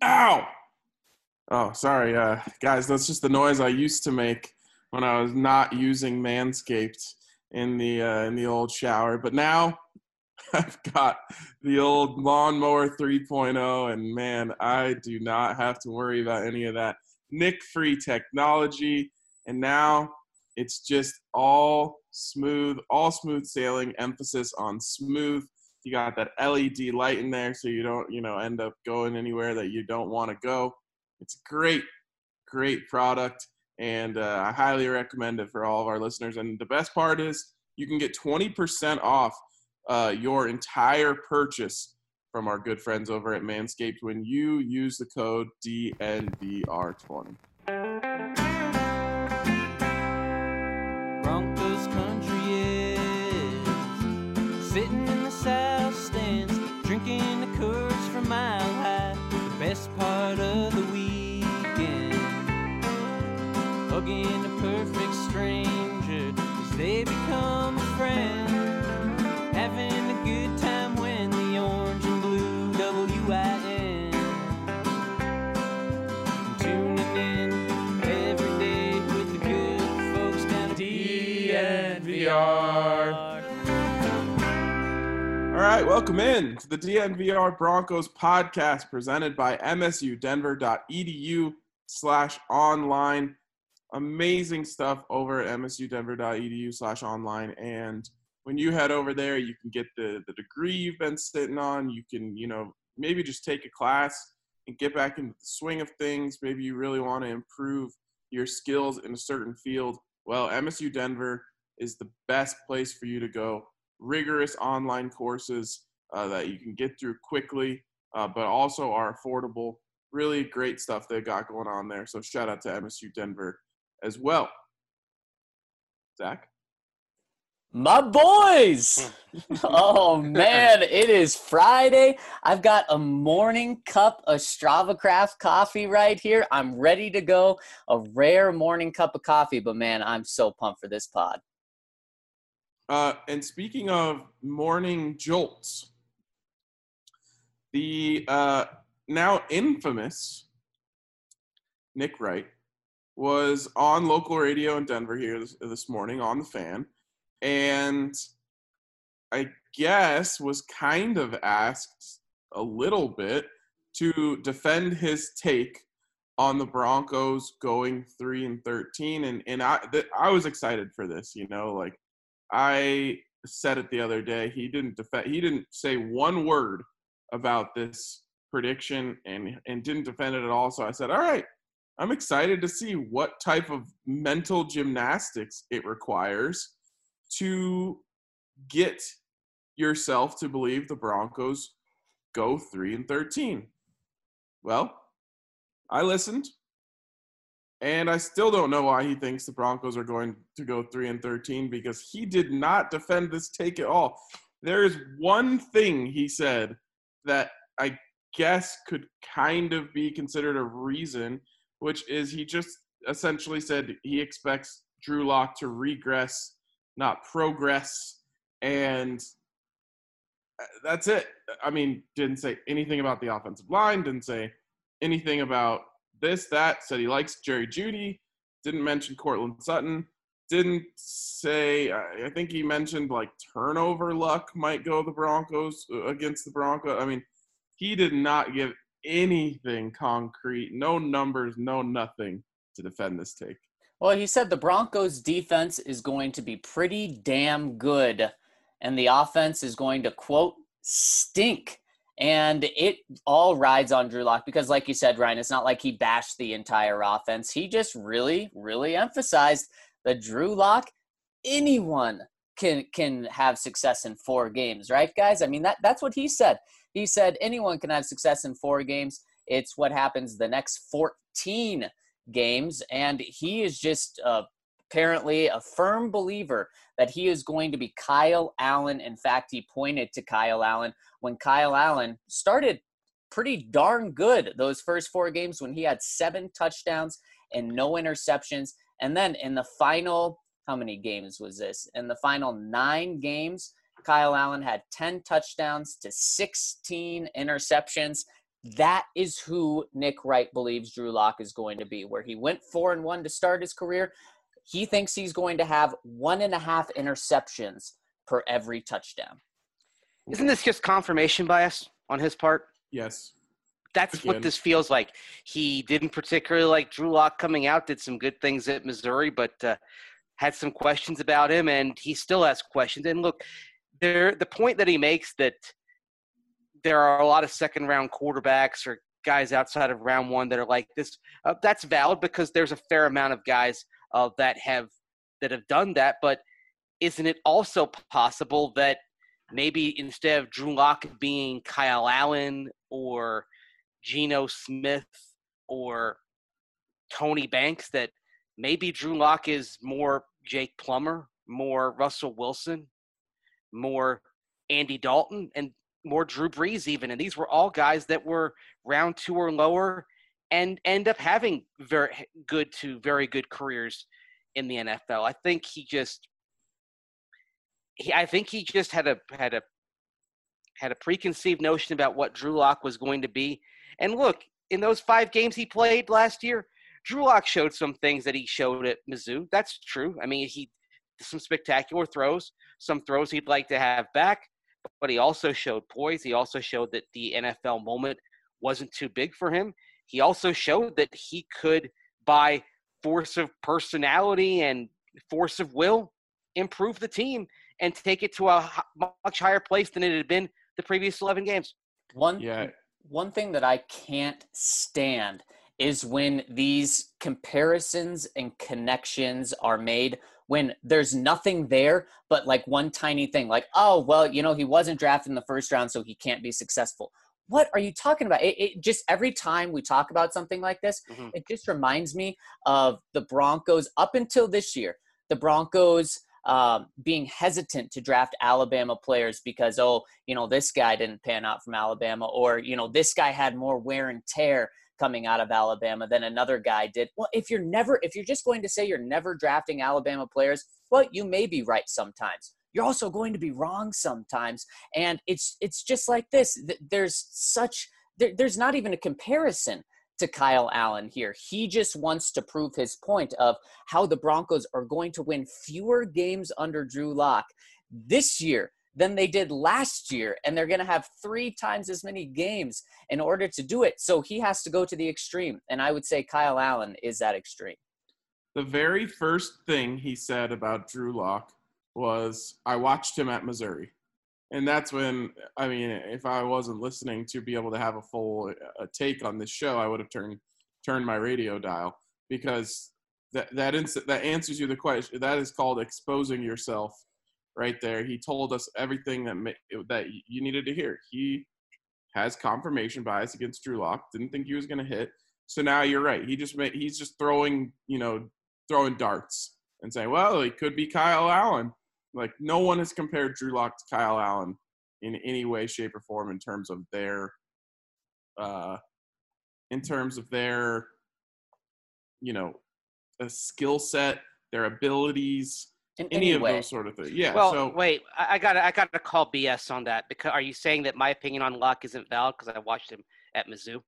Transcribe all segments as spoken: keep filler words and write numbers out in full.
Ow! Oh, sorry, uh, guys. That's just the noise I used to make when I was not using Manscaped in the uh, in the old shower. But now I've got the old lawnmower three point oh, and man, I do not have to worry about any of that nick-free technology. And now it's just all smooth, all smooth sailing. Emphasis on smooth. You got that L E D light in there, so you don't, you know, end up going anywhere that you don't want to go. It's a great, great product, and uh, I highly recommend it for all of our listeners. And the best part is you can get twenty percent off uh, your entire purchase from our good friends over at Manscaped when you use the code D N V R twenty. Broncos country is sitting in the south stands, drinking the Coors from Mile High. The best part of the weekend, hugging a perfect stranger as they become a friend, having a good time when the orange and blue W I N, tuning in every day with the good folks down at D N V R. All right, welcome in to the D N V R Broncos podcast presented by msudenver.edu slash online. Amazing stuff over at msudenver.edu slash online. And when you head over there, you can get the, the degree you've been sitting on. You can, you know, maybe just take a class and get back into the swing of things. Maybe you really want to improve your skills in a certain field. Well, M S U Denver is the best place for you to go. Rigorous online courses uh, that you can get through quickly, uh, but also are affordable. Really great stuff they've got going on there. So shout out to M S U Denver as well. Zach? My boys! Oh, man, it is Friday. I've got a morning cup of Strava Craft coffee right here. I'm ready to go. A rare morning cup of coffee, but, man, I'm so pumped for this pod. Uh, and speaking of morning jolts, the uh, now infamous Nick Wright was on local radio in Denver here this, this morning on the Fan, and I guess was kind of asked a little bit to defend his take on the Broncos going three and thirteen, and and I th- I was excited for this, you know, like. I said it the other day. He didn't defend. He didn't say one word about this prediction, and and didn't defend it at all. So I said, "All right, I'm excited to see what type of mental gymnastics it requires to get yourself to believe the Broncos go three and thirteen." Well, I listened. And I still don't know why he thinks the Broncos are going to go three and thirteen, because he did not defend this take at all. There is one thing he said that I guess could kind of be considered a reason, which is he just essentially said he expects Drew Lock to regress, not progress. And that's it. I mean, didn't say anything about the offensive line, didn't say anything about this, that, said he likes Jerry Jeudy, didn't mention Cortland Sutton, didn't say, I think he mentioned like turnover luck might go the Broncos against the Broncos. I mean, he did not give anything concrete, no numbers, no nothing to defend this take. Well, he said the Broncos defense is going to be pretty damn good, and the offense is going to, quote, stink. And it all rides on Drew Lock because, like you said, Ryan, it's not like he bashed the entire offense. He just really, really emphasized that Drew Lock, anyone can can have success in four games, right, guys? I mean, that that's what he said. He said anyone can have success in four games. It's what happens the next fourteen games, and he is just uh, apparently a firm believer that he is going to be Kyle Allen. In fact, he pointed to Kyle Allen when Kyle Allen started pretty darn good those first four games when he had seven touchdowns and no interceptions. And then in the final, how many games was this? In the final nine games, Kyle Allen had ten touchdowns to sixteen interceptions. That is who Nick Wright believes Drew Lock is going to be. Where he went four and one to start his career, he thinks he's going to have one and a half interceptions per every touchdown. Isn't this just confirmation bias on his part? Yes. That's Again. what this feels like. He didn't particularly like Drew Lock coming out, did some good things at Missouri, but uh, had some questions about him, and he still has questions. And look, there the point that he makes that there are a lot of second-round quarterbacks or guys outside of round one that are like this, uh, that's valid because there's a fair amount of guys uh, that have that have done that. But isn't it also possible that maybe instead of Drew Lock being Kyle Allen or Geno Smith or Tony Banks, that maybe Drew Lock is more Jake Plummer, more Russell Wilson, more Andy Dalton, and more Drew Brees even. And these were all guys that were round two or lower and end up having very good to very good careers in the N F L. I think he just he, I think he just had a had a had a preconceived notion about what Drew Lock was going to be. And look, in those five games he played last year, Drew Lock showed some things that he showed at Mizzou. That's true. I mean, he some spectacular throws, some throws he'd like to have back, but he also showed poise. He also showed that the N F L moment wasn't too big for him. He also showed that he could, by force of personality and force of will, improve the team and take it to a much higher place than it had been the previous eleven games. One, Yeah. one thing that I can't stand is when these comparisons and connections are made when there's nothing there but like one tiny thing, like, oh, well, you know, he wasn't drafted in the first round, so he can't be successful. What are you talking about? It, it just every time we talk about something like this, mm-hmm. it just reminds me of the Broncos up until this year. The Broncos um, being hesitant to draft Alabama players because, oh, you know, this guy didn't pan out from Alabama, or, you know, this guy had more wear and tear coming out of Alabama than another guy did. Well, if you're never, if you're just going to say you're never drafting Alabama players, well, you may be right sometimes. You're also going to be wrong sometimes. And it's, it's just like this. There's such, there, there's not even a comparison to Kyle Allen here. He just wants to prove his point of how the Broncos are going to win fewer games under Drew Lock this year than they did last year, and they're going to have three times as many games in order to do it. So he has to go to the extreme, and I would say Kyle Allen is that extreme. The very first thing he said about Drew Lock was, I watched him at Missouri. And that's when, I mean, if I wasn't listening to be able to have a full a take on this show, I would have turned turned my radio dial, because that that ins- that answers you the question. That is called exposing yourself. Right there, he told us everything that ma- that you needed to hear. He has confirmation bias against Drew Lock. Didn't think he was going to hit. So now you're right. He just made, he's just throwing, you know, throwing darts and saying, well, it could be Kyle Allen. Like, no one has compared Drew Lock to Kyle Allen in any way, shape, or form in terms of their, uh, in terms of their, you know, a skill set, their abilities. In any, any of way. those sort of things. Yeah. Well, so, wait, I, I got I got to call B S on that, because are you saying that my opinion on Lock isn't valid because I watched him at Mizzou?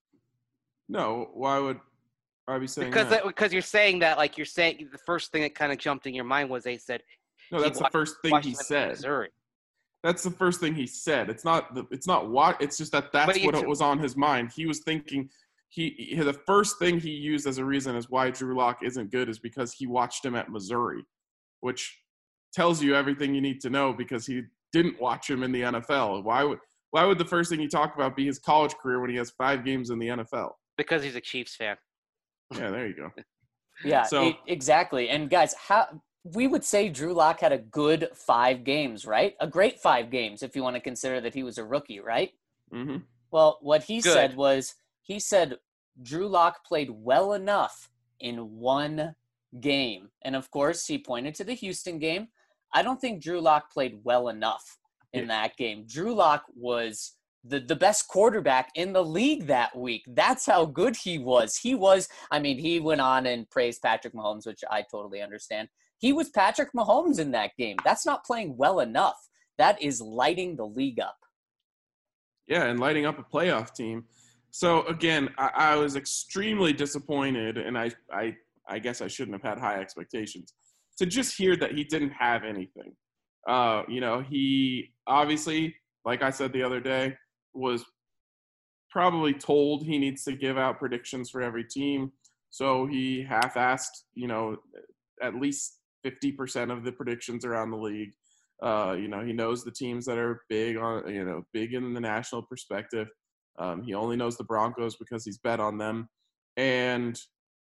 No, why would I be saying because that? Because you're saying that, like you're saying, the first thing that kind of jumped in your mind was they said. No, that's the first thing he said. Missouri. That's the first thing he said. It's not the, it's not what. It's just that that's what it was on his mind. He was thinking. He, he the first thing he used as a reason as why Drew Lock isn't good is because he watched him at Missouri, which tells you everything you need to know, because he didn't watch him in the N F L. Why would why would the first thing you talk about be his college career when he has five games in the N F L? Because he's a Chiefs fan. Yeah, there you go. Yeah, so, it, exactly. And guys, how we would say Drew Lock had a good five games, right? A great five games if you want to consider that he was a rookie, right? Mm-hmm. Well, what he good. said was he said Drew Lock played well enough in one game. And of course, he pointed to the Houston game. I don't think Drew Lock played well enough in yeah. that game. Drew Lock was the, the best quarterback in the league that week. That's how good he was. He was, I mean, he went on and praised Patrick Mahomes, which I totally understand. He was Patrick Mahomes in that game. That's not playing well enough. That is lighting the league up. Yeah, and lighting up a playoff team. So again, I, I was extremely disappointed, and I, I, I guess I shouldn't have had high expectations to just hear that he didn't have anything. Uh, you know, he obviously, like I said the other day, was probably told he needs to give out predictions for every team. So he half-assed, you know, at least fifty percent of the predictions around the league. Uh, you know, he knows the teams that are big on, you know, big in the national perspective. Um, he only knows the Broncos because he's bet on them. And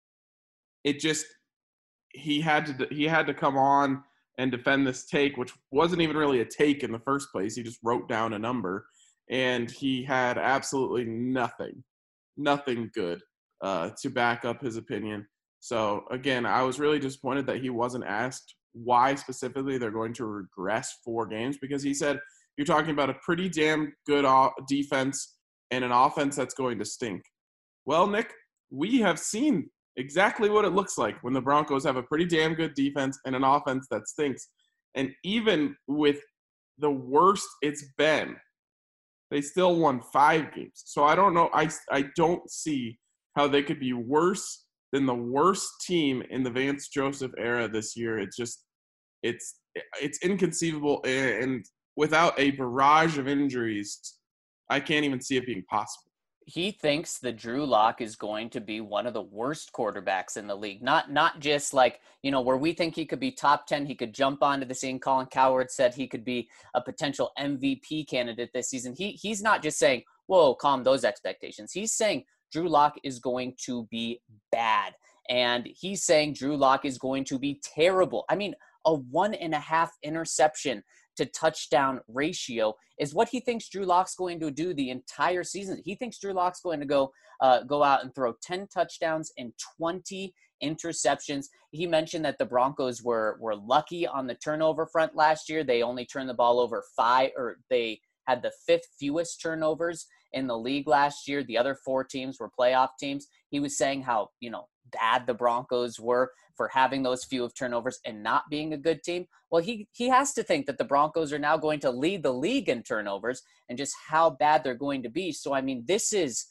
it just, he had to, he had to come on and defend this take, which wasn't even really a take in the first place. He just wrote down a number, and he had absolutely nothing, nothing good uh, to back up his opinion. So again, I was really disappointed that he wasn't asked why specifically they're going to regress four games, because he said, you're talking about a pretty damn good defense and an offense that's going to stink. Well, Nick, we have seen exactly what it looks like when the Broncos have a pretty damn good defense and an offense that stinks. And even with the worst it's been, they still won five games. So I don't know. I, I don't see how they could be worse than the worst team in the Vance Joseph era this year. It's just, it's, it's inconceivable. And without a barrage of injuries, I can't even see it being possible. He thinks that Drew Lock is going to be one of the worst quarterbacks in the league. Not not just like, you know, where we think he could be top ten, he could jump onto the scene. Colin Cowherd said he could be a potential M V P candidate this season. He He's not just saying, whoa, calm those expectations. He's saying Drew Lock is going to be bad. And he's saying Drew Lock is going to be terrible. I mean, a one and a half interception to touchdown ratio is what he thinks Drew Lock's going to do the entire season. He thinks Drew Lock's going to go uh, go out and throw ten touchdowns and twenty interceptions. He mentioned that the Broncos were were lucky on the turnover front last year. They only turned the ball over five, or they had the fifth fewest turnovers in the league last year. The other four teams were playoff teams. He was saying how, you know, bad the Broncos were for having those few of turnovers and not being a good team. Well, he he has to think that the Broncos are now going to lead the league in turnovers and just how bad they're going to be. So, I mean, this is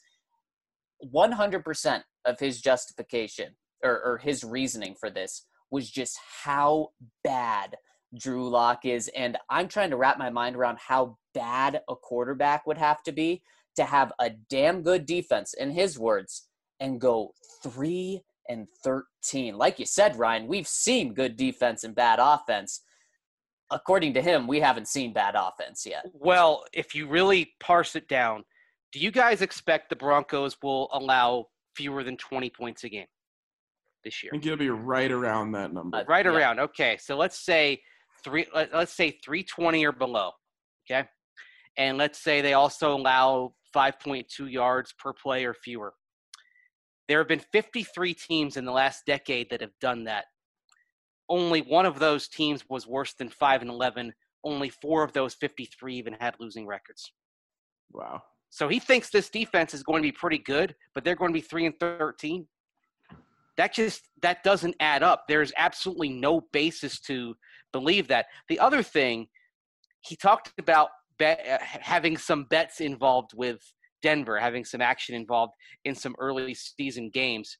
one hundred percent of his justification or, or his reasoning for this was just how bad Drew Lock is. And I'm trying to wrap my mind around how bad a quarterback would have to be to have a damn good defense, in his words, and go three and thirteen. Like you said, Ryan, we've seen good defense and bad offense. According to him, we haven't seen bad offense yet. Well, if you really parse it down, do you guys expect the Broncos will allow fewer than twenty points a game this year? I think it'll be right around that number. Uh, right yeah. around. Okay, so let's say three. Let, let's say three twenty or below. Okay, and let's say they also allow five point two yards per play or fewer. There have been fifty-three teams in the last decade that have done that. Only one of those teams was worse than five and eleven. Only four of those fifty-three even had losing records. Wow. So he thinks this defense is going to be pretty good, but they're going to be three and thirteen. That just that doesn't add up. There's absolutely no basis to believe that. The other thing, he talked about bet, uh, having some bets involved with Denver, having some action involved in some early season games.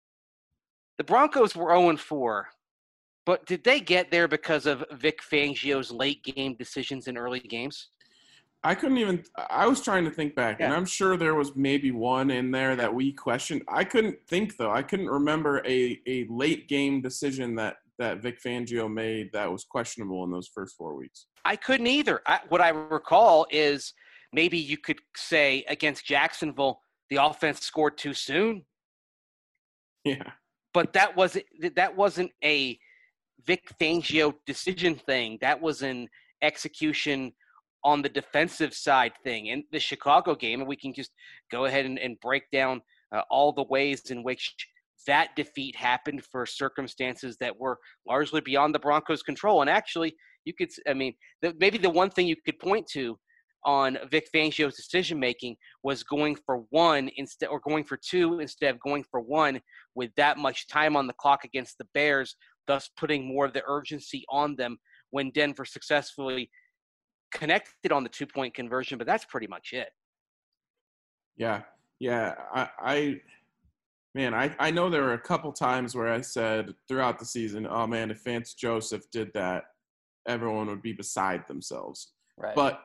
The Broncos were oh and four, but did they get there because of Vic Fangio's late game decisions in early games? I couldn't even – I was trying to think back, Yeah. and I'm sure there was maybe one in there that we questioned. I couldn't think, though. I couldn't remember a, a late-game decision that, that Vic Fangio made that was questionable in those first four weeks. I couldn't either. I, what I recall is maybe you could say against Jacksonville, the offense scored too soon. Yeah. But that wasn't that wasn't a Vic Fangio decision thing. That was an execution on the defensive side thing. In the Chicago game, and we can just go ahead and, and break down uh, all the ways in which that defeat happened for circumstances that were largely beyond the Broncos' control. And actually, you could, I mean, the, maybe the one thing you could point to on Vic Fangio's decision-making was going for one instead, or going for two instead of going for one with that much time on the clock against the Bears, thus putting more of the urgency on them when Denver successfully connected on the two-point conversion. But that's pretty much it. Yeah. Yeah, I, I man, I, I know there were a couple times where I said throughout the season, oh man, if Vance Joseph did that, everyone would be beside themselves. Right. But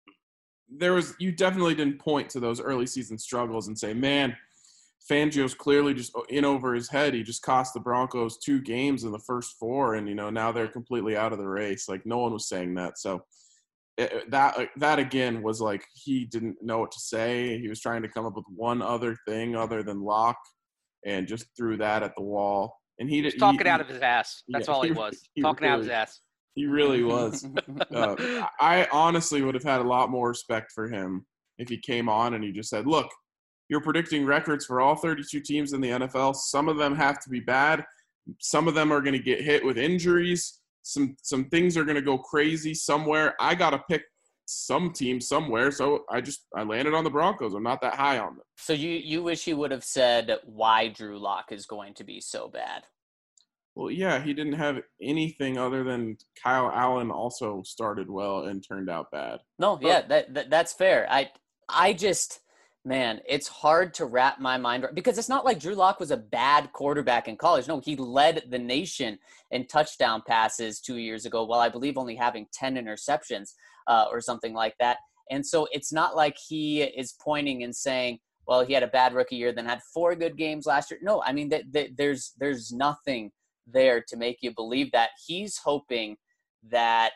there was, you definitely didn't point to those early season struggles and say, man, Fangio's clearly just in over his head. He just cost the Broncos two games in the first four, and, you know, now they're completely out of the race. Like, no one was saying that. So it, that, that again was like he didn't know what to say. He was trying to come up with one other thing other than Locke and just threw that at the wall. And he, He was he talking he, out of his ass. That's yeah, all he, he- was. he talking out of his really- ass. He really was. Uh, I honestly would have had a lot more respect for him if he came on and he just said, look, you're predicting records for all thirty-two teams in the N F L. Some of them have to be bad. Some of them are going to get hit with injuries. Some some things are going to go crazy somewhere. I got to pick some team somewhere, so I just I landed on the Broncos. I'm not that high on them. So you, you wish he would have said why Drew Lock is going to be so bad. Well, yeah, he didn't have anything other than Kyle Allen also started well and turned out bad. No, yeah, that, that that's fair. I I just man, it's hard to wrap my mind around because it's not like Drew Lock was a bad quarterback in college. No, he led the nation in touchdown passes two years ago, while I believe only having ten interceptions uh, or something like that. And so it's not like he is pointing and saying, well, he had a bad rookie year, then had four good games last year. No, I mean, th- th- there's there's nothing there to make you believe that. He's hoping that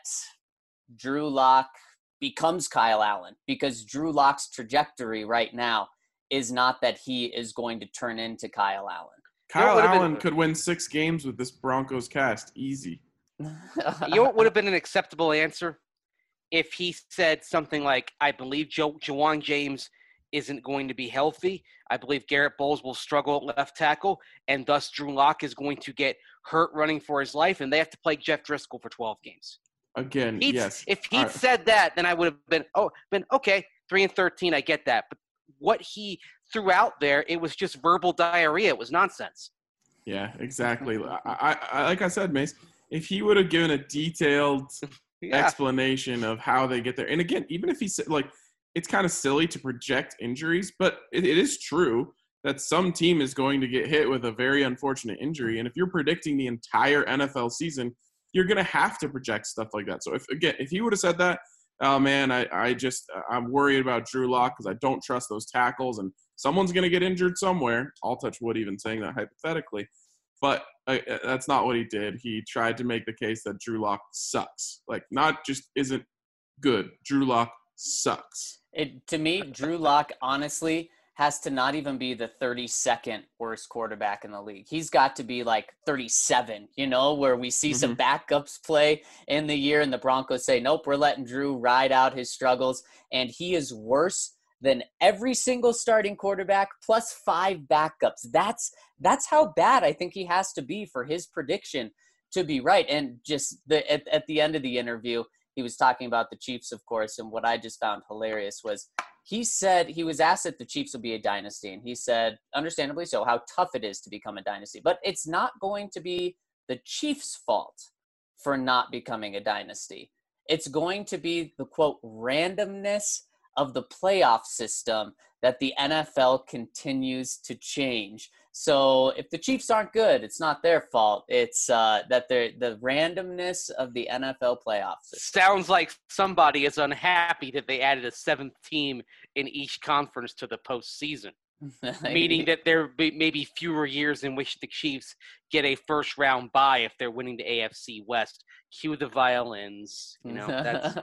Drew Lock becomes Kyle Allen, because Drew Lock's trajectory right now is not that he is going to turn into Kyle Allen. Kyle would've Allen been- could win six games with this Broncos cast. Easy. You know what would have been an acceptable answer? If he said something like, I believe jo- Jawan James isn't going to be healthy. I believe Garrett Bowles will struggle at left tackle, and thus Drew Lock is going to get hurt running for his life, and they have to play Jeff Driscoll for twelve games. Again, He'd, yes. If he'd All right. said that, then I would have been, oh, been okay, three and thirteen, I get that. But what he threw out there, it was just verbal diarrhea. It was nonsense. Yeah, exactly. I, I, I like I said, Mace, if he would have given a detailed Yeah. explanation of how they get there, and again, even if he said, like, it's kind of silly to project injuries, but it, it is true that some team is going to get hit with a very unfortunate injury, and if you're predicting the entire N F L season, you're going to have to project stuff like that. So if again, if he would have said that, oh man, I, I just I'm worried about Drew Lock because I don't trust those tackles, and someone's going to get injured somewhere. I'll touch wood even saying that hypothetically, but uh, that's not what he did. He tried to make the case that Drew Lock sucks, like not just isn't good. Drew Lock sucks. It, to me, Drew Lock honestly has to not even be the thirty-second worst quarterback in the league. He's got to be like thirty-seven, you know, where we see some backups play in the year and the Broncos say, nope, we're letting Drew ride out his struggles. And he is worse than every single starting quarterback plus five backups. That's that's how bad I think he has to be for his prediction to be right. And just the at, at the end of the interview, he was talking about the Chiefs, of course, and what I just found hilarious was he said he was asked if the Chiefs will be a dynasty, and he said, understandably so, how tough it is to become a dynasty. But it's not going to be the Chiefs' fault for not becoming a dynasty. It's going to be the, quote, randomness of the playoff system that the N F L continues to change. So if the Chiefs aren't good, it's not their fault. It's uh, that they're the randomness of the N F L playoff system. Sounds like somebody is unhappy that they added a seventh team in each conference to the postseason, meaning that there be maybe fewer years in which the Chiefs get a first-round bye if they're winning the A F C West. Cue the violins. You know, that's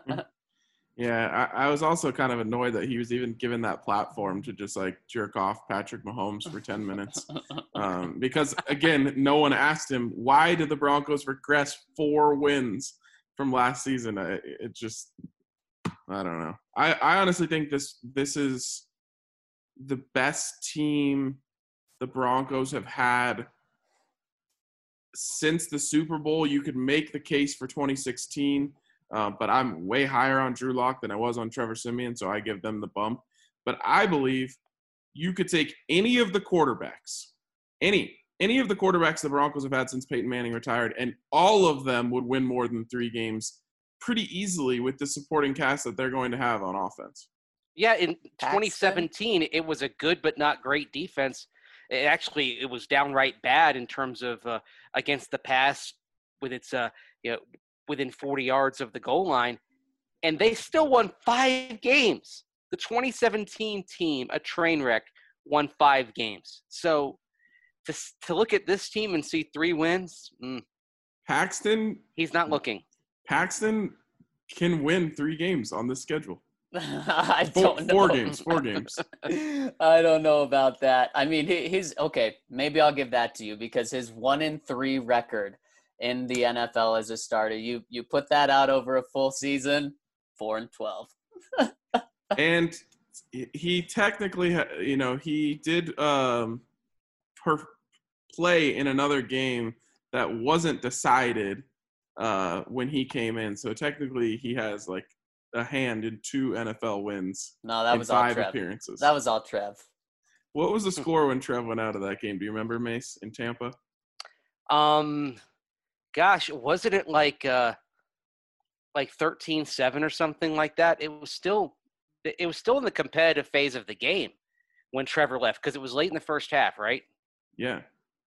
Yeah, I, I was also kind of annoyed that he was even given that platform to just like jerk off Patrick Mahomes for ten minutes. Um, because, again, no one asked him, why did the Broncos regress four wins from last season? It, it just – I don't know. I, I honestly think this this is the best team the Broncos have had since the Super Bowl. You could make the case for twenty sixteen. Uh, but I'm way higher on Drew Lock than I was on Trevor Siemian, so I give them the bump. But I believe you could take any of the quarterbacks, any, any of the quarterbacks the Broncos have had since Peyton Manning retired, and all of them would win more than three games pretty easily with the supporting cast that they're going to have on offense. Yeah, in Paxton? twenty seventeen, it was a good but not great defense. It actually, it was downright bad in terms of uh, against the pass with its, uh, you know, within forty yards of the goal line. And they still won five games. The twenty seventeen team, a train wreck, won five games. So to to look at this team and see three wins, mm, Paxton, he's not looking. Paxton can win three games on this schedule. I Four, don't know. four games, four games. I don't know about that. I mean, he- he's okay. Maybe I'll give that to you because his one in three record in the N F L as a starter, you you put that out over a full season, four and twelve. And he technically, ha- you know, he did um, per- play in another game that wasn't decided uh, when he came in. So technically, he has like a hand in two N F L wins. No, that in was all five Trev. appearances. That was all Trev. What was the score when Trev went out of that game? Do you remember, Mace, in Tampa? Um, gosh, wasn't it like uh, like thirteen seven or something like that? It was still it was still in the competitive phase of the game when Trevor left because it was late in the first half, right? Yeah.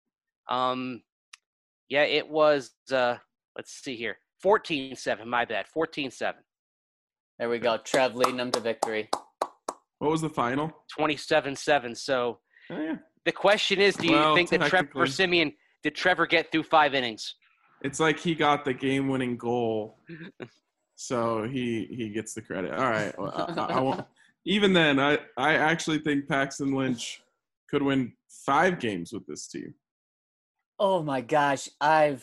Um, yeah, it was. Uh, let's see here, fourteen seven. My bad, fourteen seven. There we go. Trev leading them to victory. What was the final? twenty-seven seven. So Oh, yeah. the question is, do you Well, think that Trevor technically- Siemian did Trevor get through five innings? It's like he got the game-winning goal, so he he gets the credit. All right. Well, I, I, I won't. Even then, I, I actually think Paxton Lynch could win five games with this team. Oh my gosh, I've.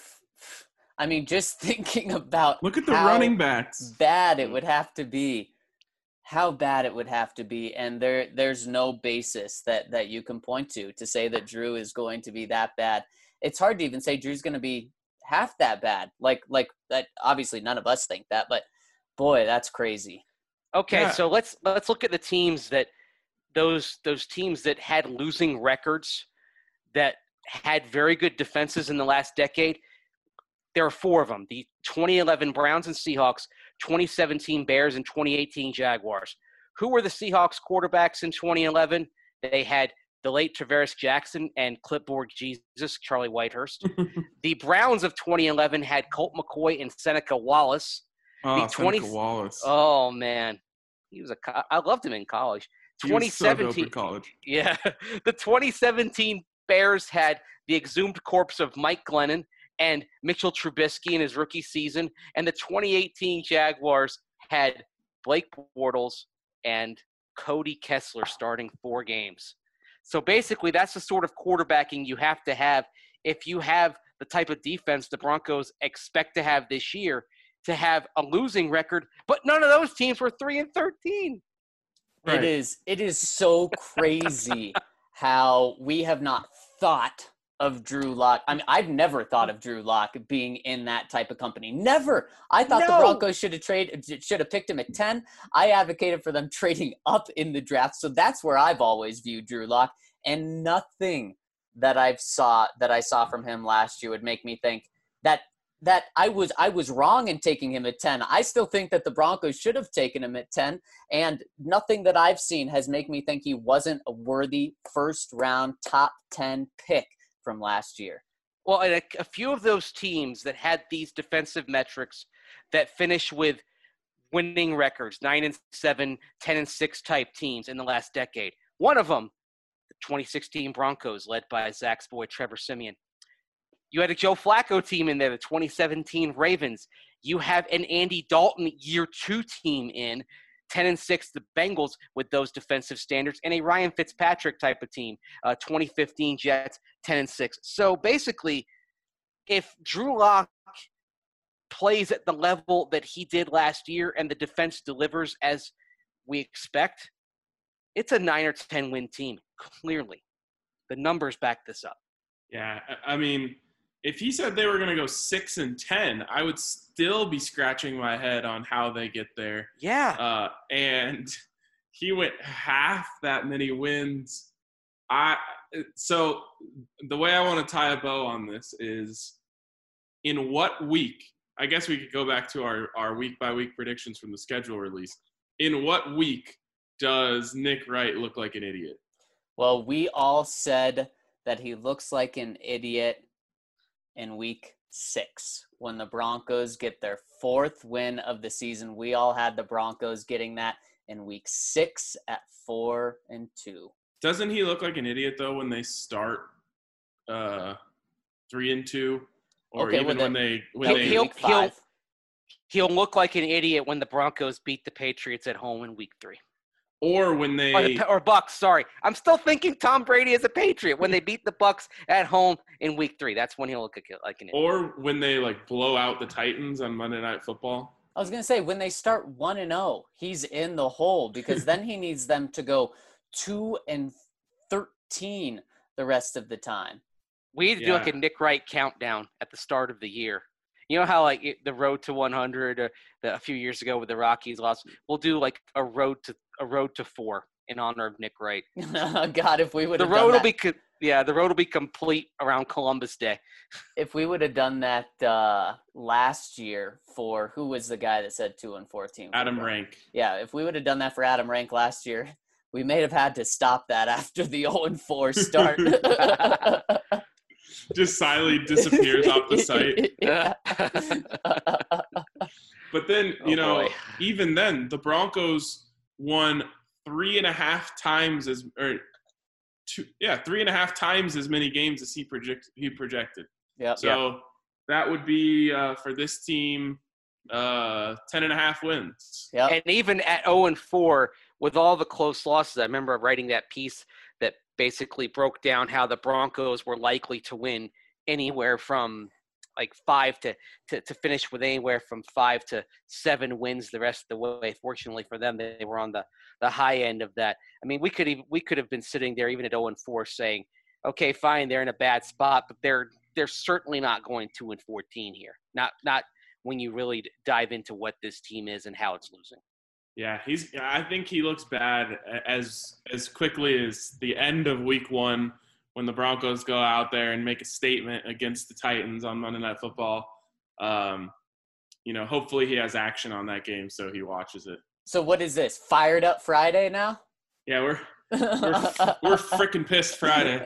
I mean, just thinking about Look at the how running backs. bad it would have to be, how bad it would have to be, and there there's no basis that that you can point to to say that Drew is going to be that bad. It's hard to even say Drew's going to be half that bad. Like like that. Obviously, none of us think that, but boy, that's crazy. Okay, Yeah. so let's let's look at the teams that those those teams that had losing records that had very good defenses in the last decade. There are four of them: the twenty eleven Browns and Seahawks, twenty seventeen Bears, and twenty eighteen Jaguars. Who were the Seahawks quarterbacks in twenty eleven? They had the late Travaris Jackson and clipboard Jesus, Charlie Whitehurst. The Browns of twenty eleven had Colt McCoy and Seneca Wallace. Oh, the twenty Seneca Wallace. Oh man, he was a. co- I loved him in college. He was so dope in twenty seventeen. college. Yeah, the twenty seventeen Bears had the exhumed corpse of Mike Glennon and Mitchell Trubisky in his rookie season, and the twenty eighteen Jaguars had Blake Bortles and Cody Kessler starting four games. So basically, that's the sort of quarterbacking you have to have if you have the type of defense the Broncos expect to have this year, to have a losing record. But none of those teams were three and thirteen. Right. It is it is so crazy how we have not thought of Drew Lock. I mean, I've never thought of Drew Lock being in that type of company. Never. I thought the No. Broncos should have traded should have picked him at ten. I advocated for them trading up in the draft. So that's where I've always viewed Drew Lock. And nothing that I've saw that I saw from him last year would make me think that that I was I was wrong in taking him at ten. I still think that the Broncos should have taken him at ten, and nothing that I've seen has made me think he wasn't a worthy first round top ten pick from last year. Well, and a, a few of those teams that had these defensive metrics that finish with winning records, nine and seven, ten and six type teams in the last decade. One of them, the twenty sixteen Broncos, led by Zach's boy Trevor Siemian. You had a Joe Flacco team in there, the twenty seventeen Ravens. You have an Andy Dalton year two team in, ten and six, the Bengals with those defensive standards, and a Ryan Fitzpatrick type of team, uh, twenty fifteen Jets, ten and six. So basically, if Drew Lock plays at the level that he did last year and the defense delivers as we expect, it's a nine or ten win team. Clearly, the numbers back this up. Yeah, I I mean, if he said they were going to go six and ten, I would still be scratching my head on how they get there. Yeah. Uh, and he went half that many wins. I so the way I want to tie a bow on this is, in what week? I guess we could go back to our our week by week predictions from the schedule release. In what week does Nick Wright look like an idiot? Well, we all said that he looks like an idiot in week six when the Broncos get their fourth win of the season. We all had the Broncos getting that in week six at four and two. Doesn't he look like an idiot though when they start uh, three and two, or Okay, even well, when then- they when That'll they be he'll- week he'll- five. He'll look like an idiot when the Broncos beat the Patriots at home in week three. or when Or, they the, or Bucks, sorry. I'm still thinking Tom Brady is a Patriot when they beat the Bucks at home in week three. That's when he'll look like like an idiot. or when they like blow out the Titans on Monday Night Football. I was gonna say when they start one and zero, he's in the hole because then he needs them to go two and thirteen the rest of the time. We need to do like Yeah. a Nick Wright countdown at the start of the year. You know how like it, the road to one hundred uh, the, a few years ago with the Rockies lost. We'll do like a road to a road to four in honor of Nick Wright. God, if we would The have road done will that, be co- yeah, the road will be complete around Columbus Day. if we would have done that uh, last year for who was the guy that said two and fourteen? for Adam the- Rank. Yeah, if we would have done that for Adam Rank last year, we may have had to stop that after the zero and four start. Just silently disappears off the site. Yeah. But then, Oh, you know, boy. even then, the Broncos won three and a half times as, or two, yeah, three and a half times as many games as he project he projected. Yep. So that would be uh, for this team, uh, ten and a half wins. Yep. And even at zero and four, with all the close losses, I remember writing that piece that basically broke down how the Broncos were likely to win anywhere from like five to, to, to finish with anywhere from five to seven wins the rest of the way. Fortunately for them, they were on the, the high end of that. I mean, we could even, we could have been sitting there even at zero and four saying, okay, fine, they're in a bad spot, but they're they're certainly not going two and fourteen here. Not not when you really dive into what this team is and how it's losing. Yeah, he's. I think he looks bad as as quickly as the end of Week One when the Broncos go out there and make a statement against the Titans on Monday Night Football. Um, you know, hopefully he has action on that game so he watches it. So what is this? Fired up Friday now? Yeah, we're we're we're freaking pissed Friday.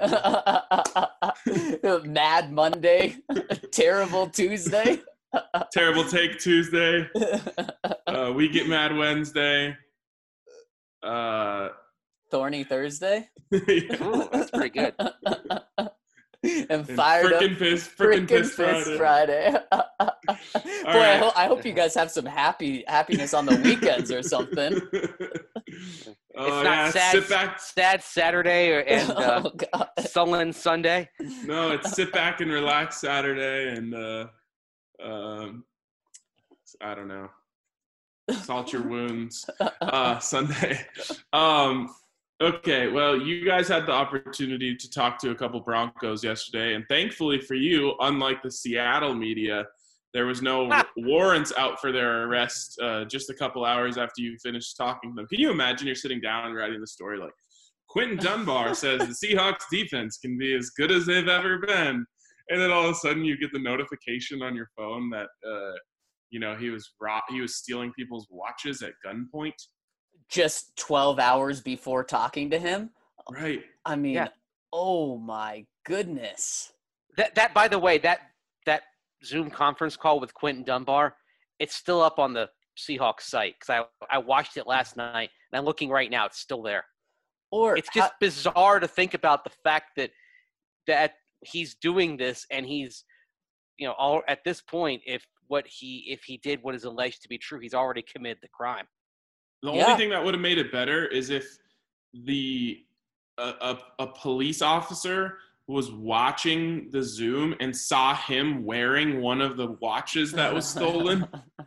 Mad Monday, terrible Tuesday. Terrible take Tuesday. Uh, we get mad Wednesday. Uh, Thorny Thursday. Ooh, that's pretty good. And and fired up freaking pissed, freaking freaking pissed Fist Friday. Friday. Boy, I, right. ho- I hope you guys have some happy happiness on the weekends or something. Oh, It's not yeah, sad, sit back. sad Saturday or, and uh, Oh God. sullen Sunday. No, it's sit back and relax Saturday, and uh, um, I don't know, salt your wounds uh, Sunday. Um, okay, well, you guys had the opportunity to talk to a couple Broncos yesterday, and thankfully for you, unlike the Seattle media, there was no warrants out for their arrest uh, just a couple hours after you finished talking to them. Can you imagine you're sitting down and writing the story like, Quentin Dunbar says the Seahawks defense can be as good as they've ever been. And then all of a sudden you get the notification on your phone that, uh, you know, he was ro- he was stealing people's watches at gunpoint. Just twelve hours before talking to him. Right. I mean, Yeah. oh my goodness. That that by the way, that that Zoom conference call with Quentin Dunbar, it's still up on the Seahawks site because I I watched it last night and I'm looking right now. It's still there. Or It's just bizarre to think about the fact that that he's doing this and he's, you know, all at this point, if what he if he did what is alleged to be true, he's already committed the crime. The Yeah. only thing that would have made it better is if the a, a, a police officer was watching the Zoom and saw him wearing one of the watches that was stolen.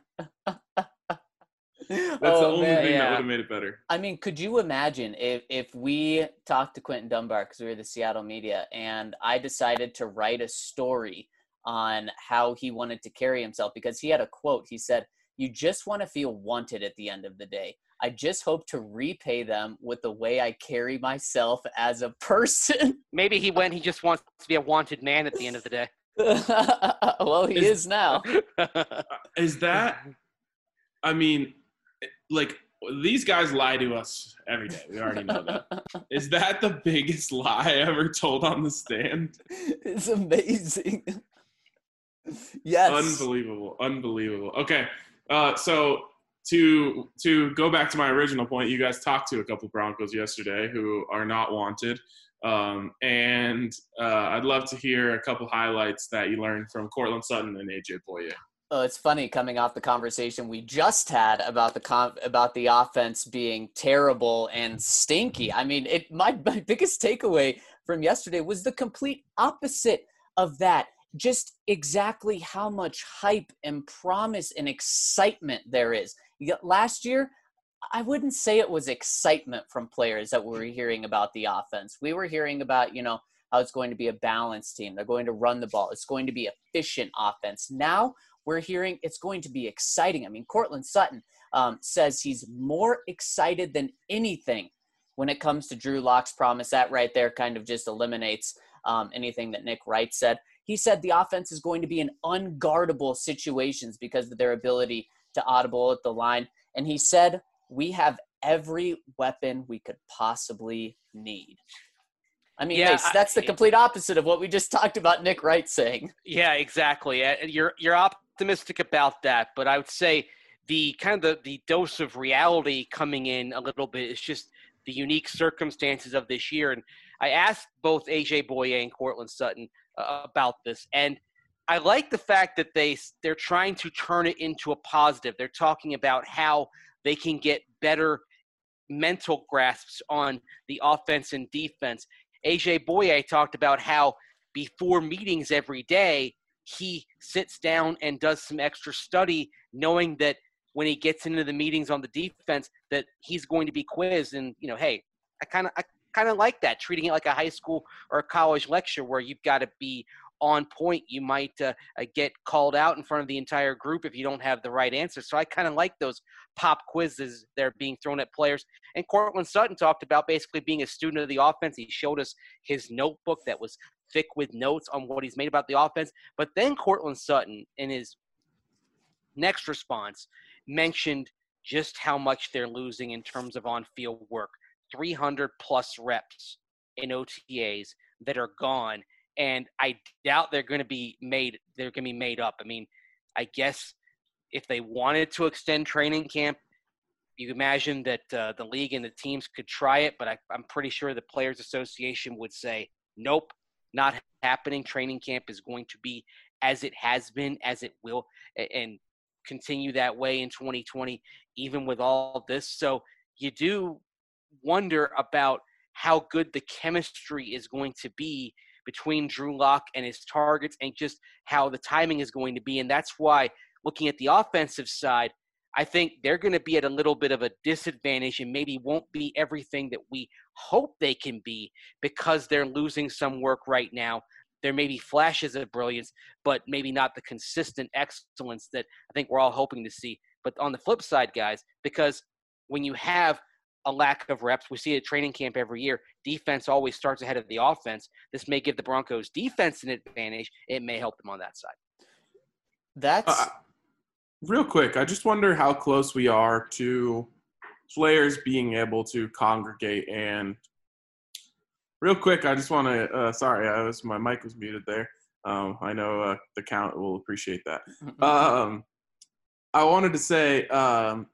That's the oh, only man. thing that yeah. would have made it better. I mean, could you imagine if if we talked to Quentin Dunbar because we were the Seattle media, and I decided to write a story on how he wanted to carry himself because he had a quote. He said, "You just want to feel wanted at the end of the day. I just hope to repay them with the way I carry myself as a person." Maybe he went. He just wants to be a wanted man at the end of the day. Well, he Is- is now. Is that, I mean, like, these guys lie to us every day. We already know that. Is that the biggest lie ever told on the stand? It's amazing. Yes. Unbelievable. Unbelievable. Okay. Uh, so to to go back to my original point, you guys talked to a couple Broncos yesterday who are not wanted. Um, and uh, I'd love to hear a couple highlights that you learned from Courtland Sutton and A J Boye. Oh, it's funny coming off the conversation we just had about the con- about the offense being terrible and stinky. I mean, it my, my biggest takeaway from yesterday was the complete opposite of that. Just exactly how much hype and promise and excitement there is. You got, last year, I wouldn't say it was excitement from players that we were hearing about the offense. We were hearing about, you know, how it's going to be a balanced team. They're going to run the ball. It's going to be efficient offense. Now we're hearing it's going to be exciting. I mean, Courtland Sutton um, says he's more excited than anything when it comes to Drew Lock's promise. That right there kind of just eliminates um, anything that Nick Wright said. He said the offense is going to be in unguardable situations because of their ability to audible at the line. And he said, we have every weapon we could possibly need. I mean, Yeah, Mace, that's the I- complete opposite of what we just talked about Nick Wright saying. Yeah, exactly. Uh, You're you're optimistic about that, but I would say the kind of the, the dose of reality coming in a little bit is just the unique circumstances of this year. And I asked both A J Boye and Courtland Sutton uh, about this, and I like the fact that they they're trying to turn it into a positive. They're talking about how they can get better mental grasps on the offense and defense. A J Boye talked about how before meetings every day, he sits down and does some extra study, knowing that when he gets into the meetings on the defense, that he's going to be quizzed. And, you know, hey, I kind of I kind of like that, treating it like a high school or a college lecture where you've got to be on point. You might uh, uh, get called out in front of the entire group if you don't have the right answer. So I kind of like those pop quizzes that are being thrown at players. And Courtland Sutton talked about basically being a student of the offense. He showed us his notebook that was thick with notes on what he's made about the offense. But then Courtland Sutton, in his next response, mentioned just how much they're losing in terms of on-field work. three hundred plus reps in O T As that are gone. And I doubt they're going to be made. They're going to be made up. I mean, I guess if they wanted to extend training camp, you imagine that uh, the league and the teams could try it. But I, I'm pretty sure the Players Association would say, nope, not happening. Training camp is going to be as it has been, as it will, and continue that way in twenty twenty, even with all this. So you do wonder about how good the chemistry is going to be between Drew Lock and his targets and just how the timing is going to be. And that's why, looking at the offensive side, I think they're going to be at a little bit of a disadvantage and maybe won't be everything that we hope they can be because they're losing some work right now. There may be flashes of brilliance, but maybe not the consistent excellence that I think we're all hoping to see. But on the flip side, guys, because when you have a lack of reps, we see it at training camp every year, defense always starts ahead of the offense. This may give the Broncos defense an advantage. It may help them on that side. That's Uh, real quick, I just wonder how close we are to players being able to congregate. And real quick, I just want to uh, – sorry, I was my mic was muted there. Um, I know uh, the count will appreciate that. Um, I wanted to say um,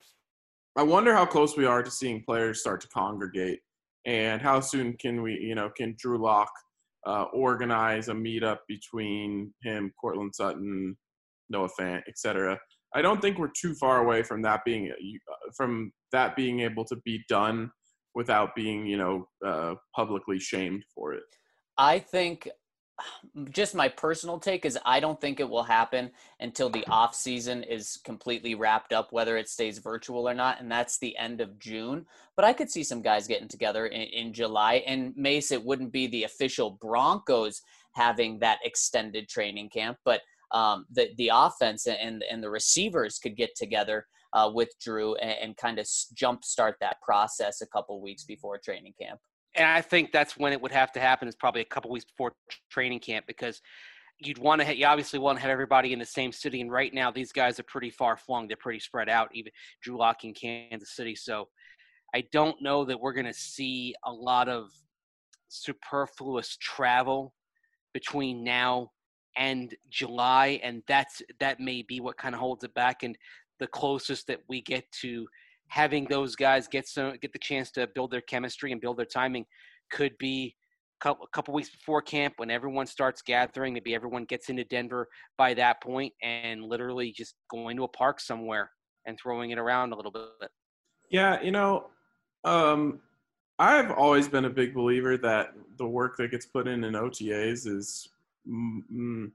I wonder how close we are to seeing players start to congregate, and how soon can we – you know, can Drew Lock uh, organize a meetup between him, Courtland Sutton, Noah Fant, et cetera. I don't think we're too far away from that being from that being able to be done without being, you know, uh, publicly shamed for it. I think just my personal take is I don't think it will happen until the off season is completely wrapped up, whether it stays virtual or not. And that's the end of June. But I could see some guys getting together in, in July. And Mace, it wouldn't be the official Broncos having that extended training camp, but um, the, the offense and, and the receivers could get together uh, with Drew and, and kind of jumpstart that process a couple weeks before training camp. And I think that's when it would have to happen, is probably a couple weeks before training camp, because you'd want to, you obviously want to have everybody in the same city. And right now, these guys are pretty far flung. They're pretty spread out, even Drew Lock in Kansas City. So I don't know that we're going to see a lot of superfluous travel between now and July. And that's, that may be what kind of holds it back. And the closest that we get to having those guys get some, get the chance to build their chemistry and build their timing could be a couple weeks before camp when everyone starts gathering. Maybe everyone gets into Denver by that point and literally just going to a park somewhere and throwing it around a little bit. Yeah, you know, um, I've always been a big believer that the work that gets put in in O T As is mm,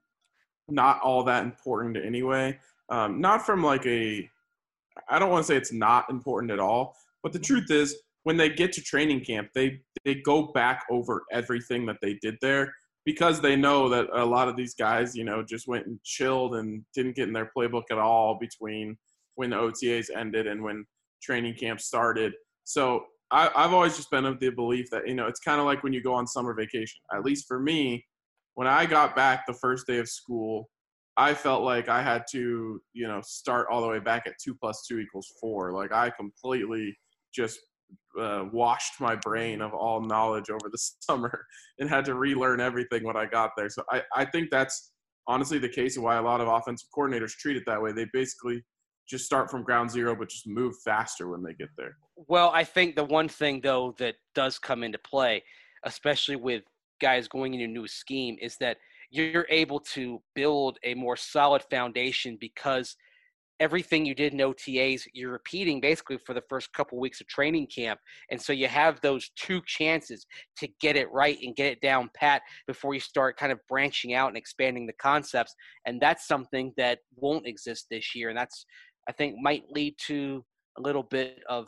not all that important anyway. Um, not from like a – I don't want to say it's not important at all, but the truth is when they get to training camp, they they go back over everything that they did there because they know that a lot of these guys, you know, just went and chilled and didn't get in their playbook at all between when the O T As ended and when training camp started. So I, I've always just been of the belief that, you know, it's kind of like when you go on summer vacation. At least for me, when I got back the first day of school, I felt like I had to, you know, start all the way back at two plus two equals four. Like I completely just uh, washed my brain of all knowledge over the summer and had to relearn everything when I got there. So I, I think that's honestly the case of why a lot of offensive coordinators treat it that way. They basically just start from ground zero, but just move faster when they get there. Well, I think the one thing, though, that does come into play, especially with guys going into a new scheme, is that you're able to build a more solid foundation because everything you did in O T As, you're repeating basically for the first couple of weeks of training camp. And so you have those two chances to get it right and get it down pat before you start kind of branching out and expanding the concepts. And that's something that won't exist this year. And that's, I think, might lead to a little bit of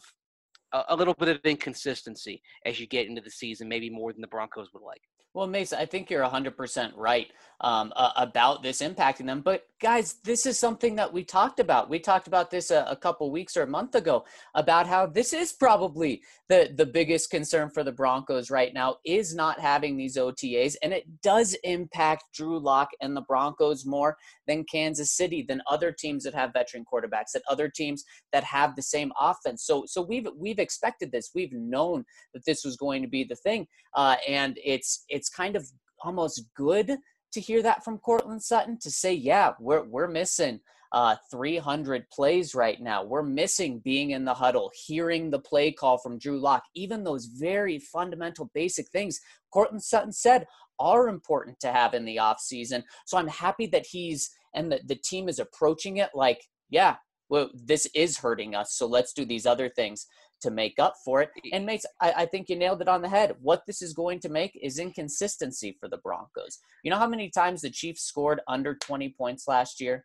a little bit of inconsistency as you get into the season, maybe more than the Broncos would like. Well, Mace, I think you're one hundred percent right um, uh, about this impacting them. But, guys, this is something that we talked about. We talked about this a, a couple weeks or a month ago about how this is probably the, the biggest concern for the Broncos right now is not having these O T As. And it does impact Drew Lock and the Broncos more than Kansas City, than other teams that have veteran quarterbacks, than other teams that have the same offense. So so we've we've expected this. We've known that this was going to be the thing. Uh, and it's it's kind of almost good to hear that from Courtland Sutton, to say, yeah, we're we're missing uh, three hundred plays right now. We're missing being in the huddle, hearing the play call from Drew Lock. Even those very fundamental, basic things Courtland Sutton said are important to have in the offseason. So I'm happy that he's and the, the team is approaching it like, yeah, well, this is hurting us, so let's do these other things to make up for it. And Mates, I, I think you nailed it on the head. What this is going to make is inconsistency for the Broncos. You know how many times the Chiefs scored under twenty points last year?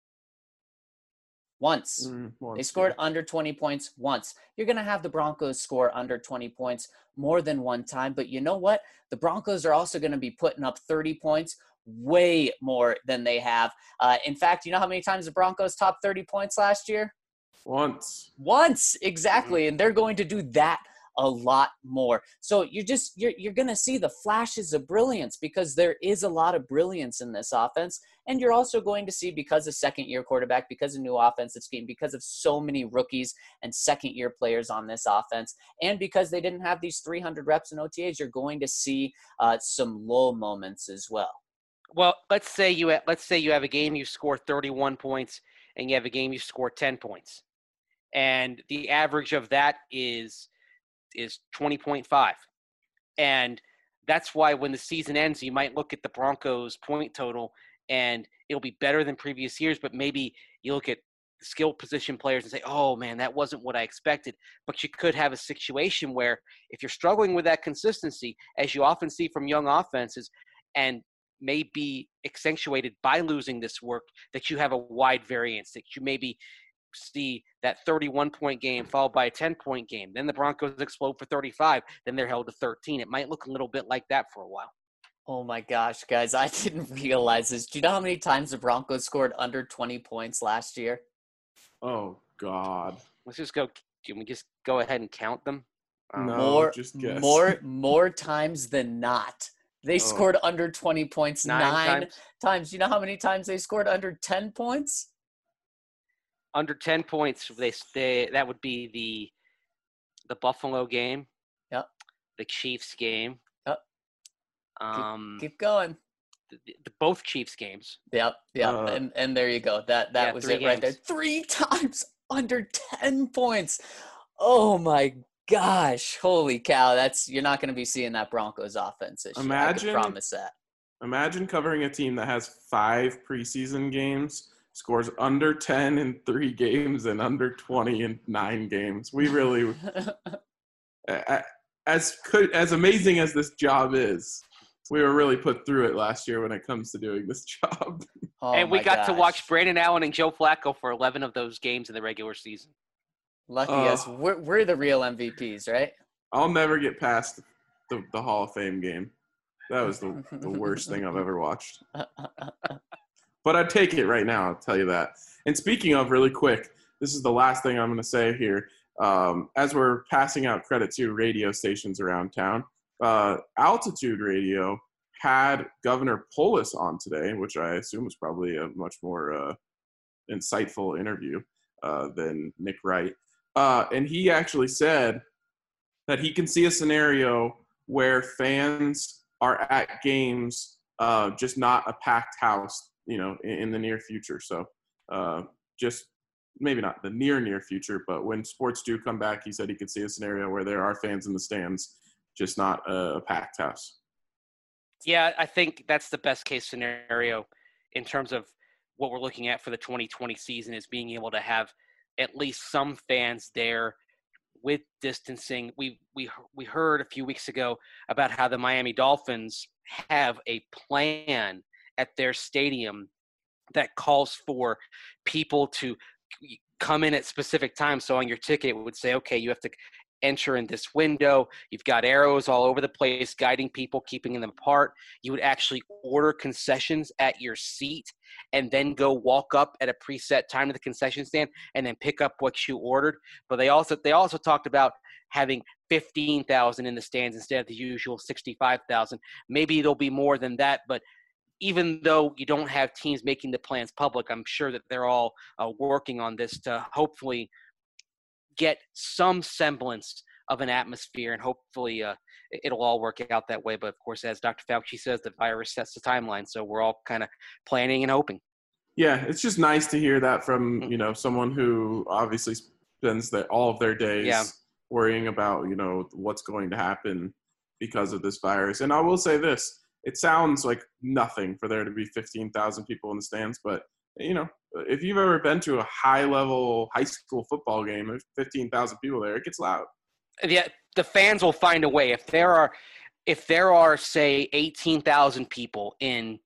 Once. Mm, once they scored yeah. under twenty points once. You're going to have the Broncos score under twenty points more than one time. But you know what? The Broncos are also going to be putting up thirty points way more than they have. Uh, in fact, you know how many times the Broncos topped thirty points last year? Once. Once, exactly. And they're going to do that a lot more. So you're just, you're, you're going to see the flashes of brilliance because there is a lot of brilliance in this offense. And you're also going to see, because of second year quarterback, because of new offensive scheme, because of so many rookies and second year players on this offense, and because they didn't have these three hundred reps in O T As, you're going to see uh, some low moments as well. Well, let's say you have, let's say you have a game you score thirty-one points and you have a game you score ten points. And the average of that is is twenty point five. And that's why when the season ends, you might look at the Broncos point total and it'll be better than previous years, but maybe you look at skill position players and say, oh man, that wasn't what I expected. But you could have a situation where if you're struggling with that consistency, as you often see from young offenses, and may be accentuated by losing this work, that you have a wide variance, that you maybe see that thirty-one point game followed by a ten point game. Then the Broncos explode for thirty-five. Then they're held to thirteen. It might look a little bit like that for a while. Oh my gosh, guys, I didn't realize this. Do you know how many times the Broncos scored under twenty points last year? Oh God. Let's just go. Can we just go ahead and count them? Um, no, more, just guess. more, more times than not. They Oh. scored under twenty points nine, Nine times. times. You know how many times they scored under ten points? Under ten points, they they that would be the the Buffalo game. Yep. The Chiefs game. Yep. Um, Keep going. the, the, both Chiefs games. Yep, yep, Uh, and and there you go. That that yeah, was three it right there. games. Three times under ten points. Oh my gosh! Holy cow! That's you're not going to be seeing that Broncos offense this year. I Imagine- can promise that. Imagine covering a team that has five preseason games, scores under ten in three games, and under twenty in nine games. We really, a- as could as amazing as this job is, we were really put through it last year when it comes to doing this job. Oh and we my got to gosh. watch Brandon Allen and Joe Flacco for eleven of those games in the regular season. Lucky Uh, us. We're we're the real M V Ps, right? I'll never get past the, the Hall of Fame game. That was the, the worst thing I've ever watched. But I'd take it right now, I'll tell you that. And speaking of, really quick, this is the last thing I'm going to say here. Um, as we're passing out credit to radio stations around town, uh, Altitude Radio had Governor Polis on today, which I assume was probably a much more uh, insightful interview uh, than Nick Wright. Uh, and he actually said that he can see a scenario where fans are at games, uh, just not a packed house, you know, in, in the near future. So uh, just maybe not the near, near future, but when sports do come back, he said he could see a scenario where there are fans in the stands, just not a, a packed house. Yeah, I think that's the best case scenario in terms of what we're looking at for the twenty twenty season is being able to have at least some fans there with distancing. We we we heard a few weeks ago about how the Miami Dolphins have a plan at their stadium that calls for people to come in at specific times. So on your ticket, it would say, okay, you have to enter in this window. You've got arrows all over the place guiding people, keeping them apart. You would actually order concessions at your seat and then go walk up at a preset time to the concession stand and then pick up what you ordered. But they also they also talked about having fifteen thousand in the stands instead of the usual sixty-five thousand. Maybe there'll be more than that, but even though you don't have teams making the plans public, I'm sure that they're all uh, working on this to hopefully get some semblance of an atmosphere, and hopefully uh, it'll all work out that way. But, of course, as Doctor Fauci says, the virus sets the timeline, so we're all kind of planning and hoping. Yeah, it's just nice to hear that from, you know, someone who obviously spends the, all of their days Yeah. worrying about, you know, what's going to happen because of this virus. And I will say this, it sounds like nothing for there to be fifteen thousand people in the stands, but, you know, if you've ever been to a high-level high school football game, there's fifteen thousand people there, it gets loud. Yeah, the fans will find a way. If there are, if there are, say, eighteen thousand people in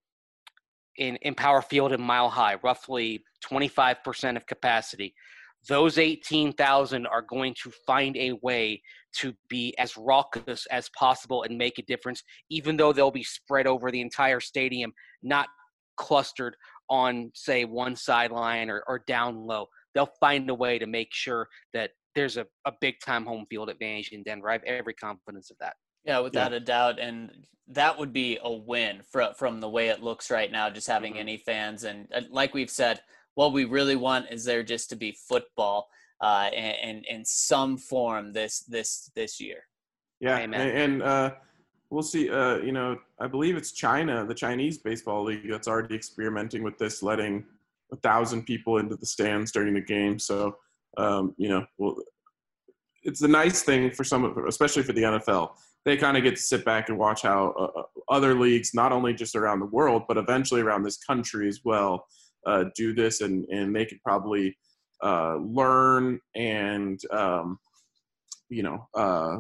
in in Power Field and Mile High, roughly twenty-five percent of capacity, those eighteen thousand are going to find a way to be as raucous as possible and make a difference, even though they'll be spread over the entire stadium, not clustered on, say, one sideline or, or down low. They'll find a way to make sure that there's a, a big-time home field advantage in Denver. I have every confidence of that. Yeah, without a doubt. And that would be a win from, from the way it looks right now, just having Mhm. any fans. And uh, like we've said, what we really want is there just to be football uh, in, in, in some form this this this year. Yeah, Amen. and, and uh, we'll see. Uh, you know, I believe it's China, the Chinese baseball league, that's already experimenting with this, letting a thousand people into the stands during the game. So, um, you know, well, it's a nice thing for some, especially for the N F L. They kind of get to sit back and watch how uh, other leagues, not only just around the world, but eventually around this country as well, uh, do this, and and they could probably uh, learn and um, you know. Uh,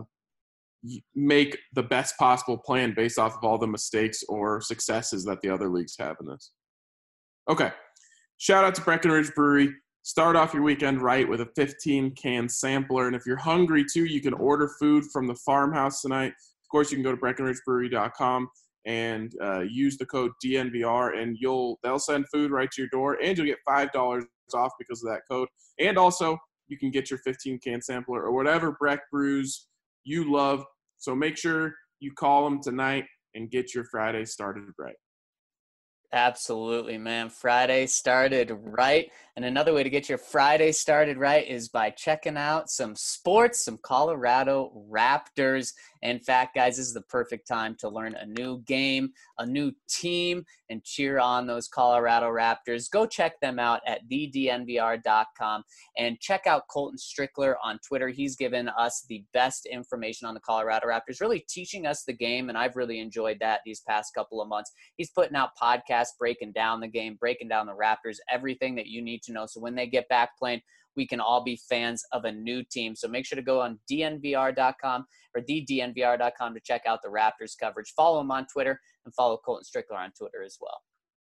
make the best possible plan based off of all the mistakes or successes that the other leagues have in this. Okay. Shout out to Breckenridge Brewery. Start off your weekend right with a fifteen can sampler. And if you're hungry too, you can order food from the farmhouse tonight. Of course, you can go to breckenridge brewery dot com and uh, use the code D N V R, and you'll they'll send food right to your door, and you'll get five dollars off because of that code. And also, you can get your fifteen can sampler or whatever Breck brews you love. So make sure you call them tonight. and get your Friday started right. Absolutely, man. Friday started right. And another way to get your Friday started right is by checking out some sports, some Colorado Raptors. In fact, guys, this is the perfect time to learn a new game, a new team, and cheer on those Colorado Raptors. Go check them out at the d n v r dot com and check out Colton Strickler on Twitter. He's given us the best information on the Colorado Raptors, really teaching us the game, and I've really enjoyed that these past couple of months. He's putting out podcasts breaking down the game, breaking down the Raptors, everything that you need to know. So when they get back playing, we can all be fans of a new team. So make sure to go on d n v r dot com or the d n v r dot com to check out the Raptors coverage. Follow him on Twitter and follow Colton Strickler on Twitter as well.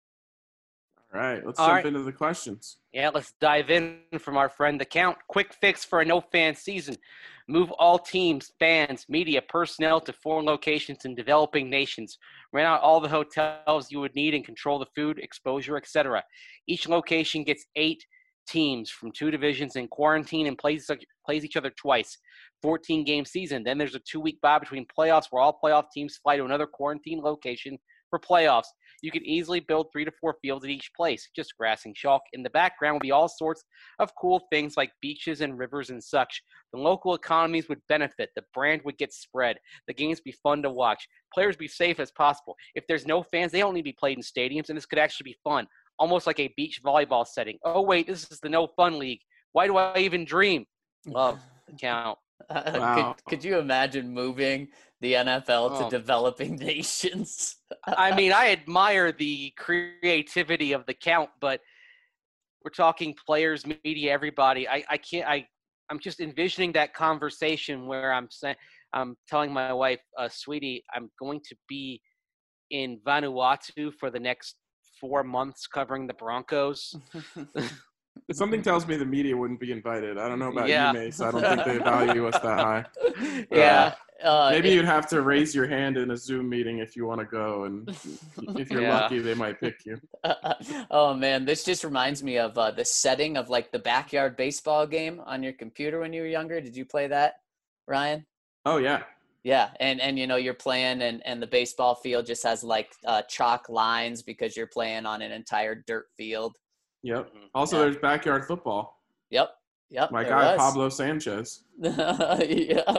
All right, let's All jump right. into the questions. Yeah, let's dive in from our friend The Count. Quick fix for a no-fan season. Move all teams, fans, media, personnel to foreign locations in developing nations. Rent out all the hotels you would need and control the food, exposure, et cetera. Each location gets eight teams from two divisions in quarantine and plays, plays each other twice. fourteen-game season. Then there's a two-week bye between playoffs where all playoff teams fly to another quarantine location for playoffs. You can easily build three to four fields at each place, just grass and chalk. In the background will be all sorts of cool things like beaches and rivers and such. The local economies would benefit. The brand would get spread. The games be fun to watch. Players be safe as possible. If there's no fans, they don't need to be played in stadiums, and this could actually be fun, almost like a beach volleyball setting. Oh, wait, this is the No Fun League. Why do I even dream? Love The Count. Uh, Wow. could, could you imagine moving the N F L to Oh. developing nations? I mean, I admire the creativity of The Count, but we're talking players, media, everybody. I, I can't. I I'm just envisioning that conversation where I'm saying, I'm telling my wife, uh, sweetie, I'm going to be in Vanuatu for the next four months covering the Broncos. Something tells me the media wouldn't be invited. I don't know about Yeah. you, Mace. I don't think they value us that high. Yeah. Uh, Maybe it- you'd have to raise your hand in a Zoom meeting if you want to go, and if you're Yeah. lucky, they might pick you. oh man, this just reminds me of uh, the setting of like the backyard baseball game on your computer when you were younger. Did you play that, Ryan? Oh, yeah. Yeah, and and you know you're playing, and and the baseball field just has like uh, chalk lines because you're playing on an entire dirt field. Yep. Mhm. Also, Yeah. there's backyard football. Yep, yep. My there guy, was. Pablo Sanchez. yeah.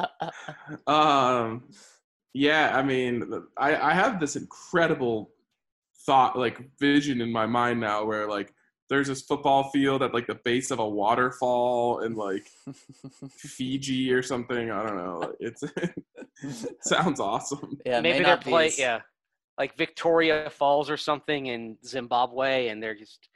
Um, yeah, I mean, I, I have this incredible thought, like vision in my mind now where like there's this football field at like the base of a waterfall in like Fiji or something. I don't know. It's it sounds awesome. Yeah, it may Maybe they're not be play, as- yeah, like Victoria Falls or something in Zimbabwe, and they're just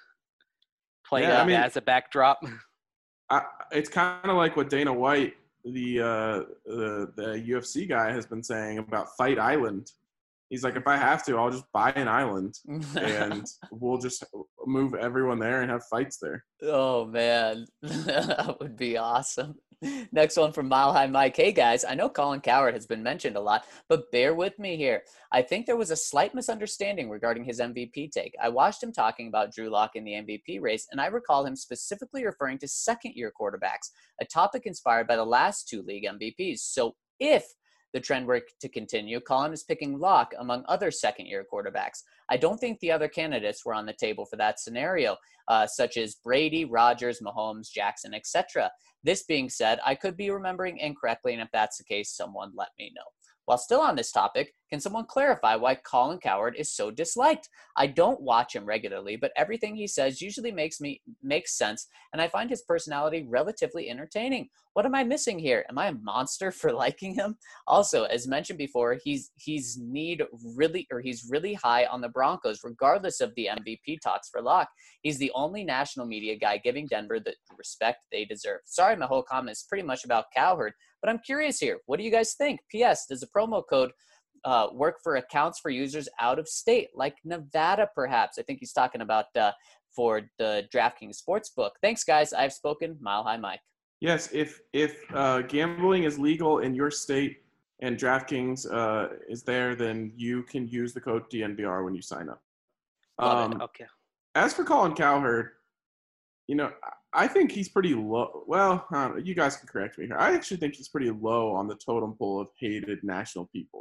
playing Yeah, I that mean- as a backdrop. I, it's kind of like what Dana White, the, uh, the the U F C guy, has been saying about Fight Island. He's like, if I have to, I'll just buy an island and we'll just move everyone there and have fights there. Oh man, that would be awesome. Next one from Mile High Mike. Hey guys, I know Colin Cowherd has been mentioned a lot, but bear with me here. I think there was a slight misunderstanding regarding his M V P take. I watched him talking about Drew Lock in the M V P race, and I recall him specifically referring to second-year quarterbacks, a topic inspired by the last two league M V Ps. So if the trend were to continue, Colin is picking Locke among other second-year quarterbacks. I don't think the other candidates were on the table for that scenario, uh, such as Brady, Rodgers, Mahomes, Jackson, et cetera. This being said, I could be remembering incorrectly, and if that's the case, someone let me know. While still on this topic, can someone clarify why Colin Cowherd is so disliked? I don't watch him regularly, but everything he says usually makes me makes sense, and I find his personality relatively entertaining. What am I missing here? Am I a monster for liking him? Also, as mentioned before, he's he's need really or he's really high on the Broncos, regardless of the M V P talks for Locke. He's the only national media guy giving Denver the respect they deserve. Sorry, my whole comment is pretty much about Cowherd, but I'm curious here. What do you guys think? P S. Does the promo code uh, work for accounts for users out of state, like Nevada, perhaps? I think he's talking about uh, for the DraftKings Sportsbook. Thanks, guys. I've spoken. Mile High Mike. Yes, if if uh, gambling is legal in your state and DraftKings uh, is there, then you can use the code D N V R when you sign up. Love Um, Okay. as for Colin Cowherd, you know, I think he's pretty low. Well, I don't know, you guys can correct me here. I actually think he's pretty low on the totem pole of hated national people.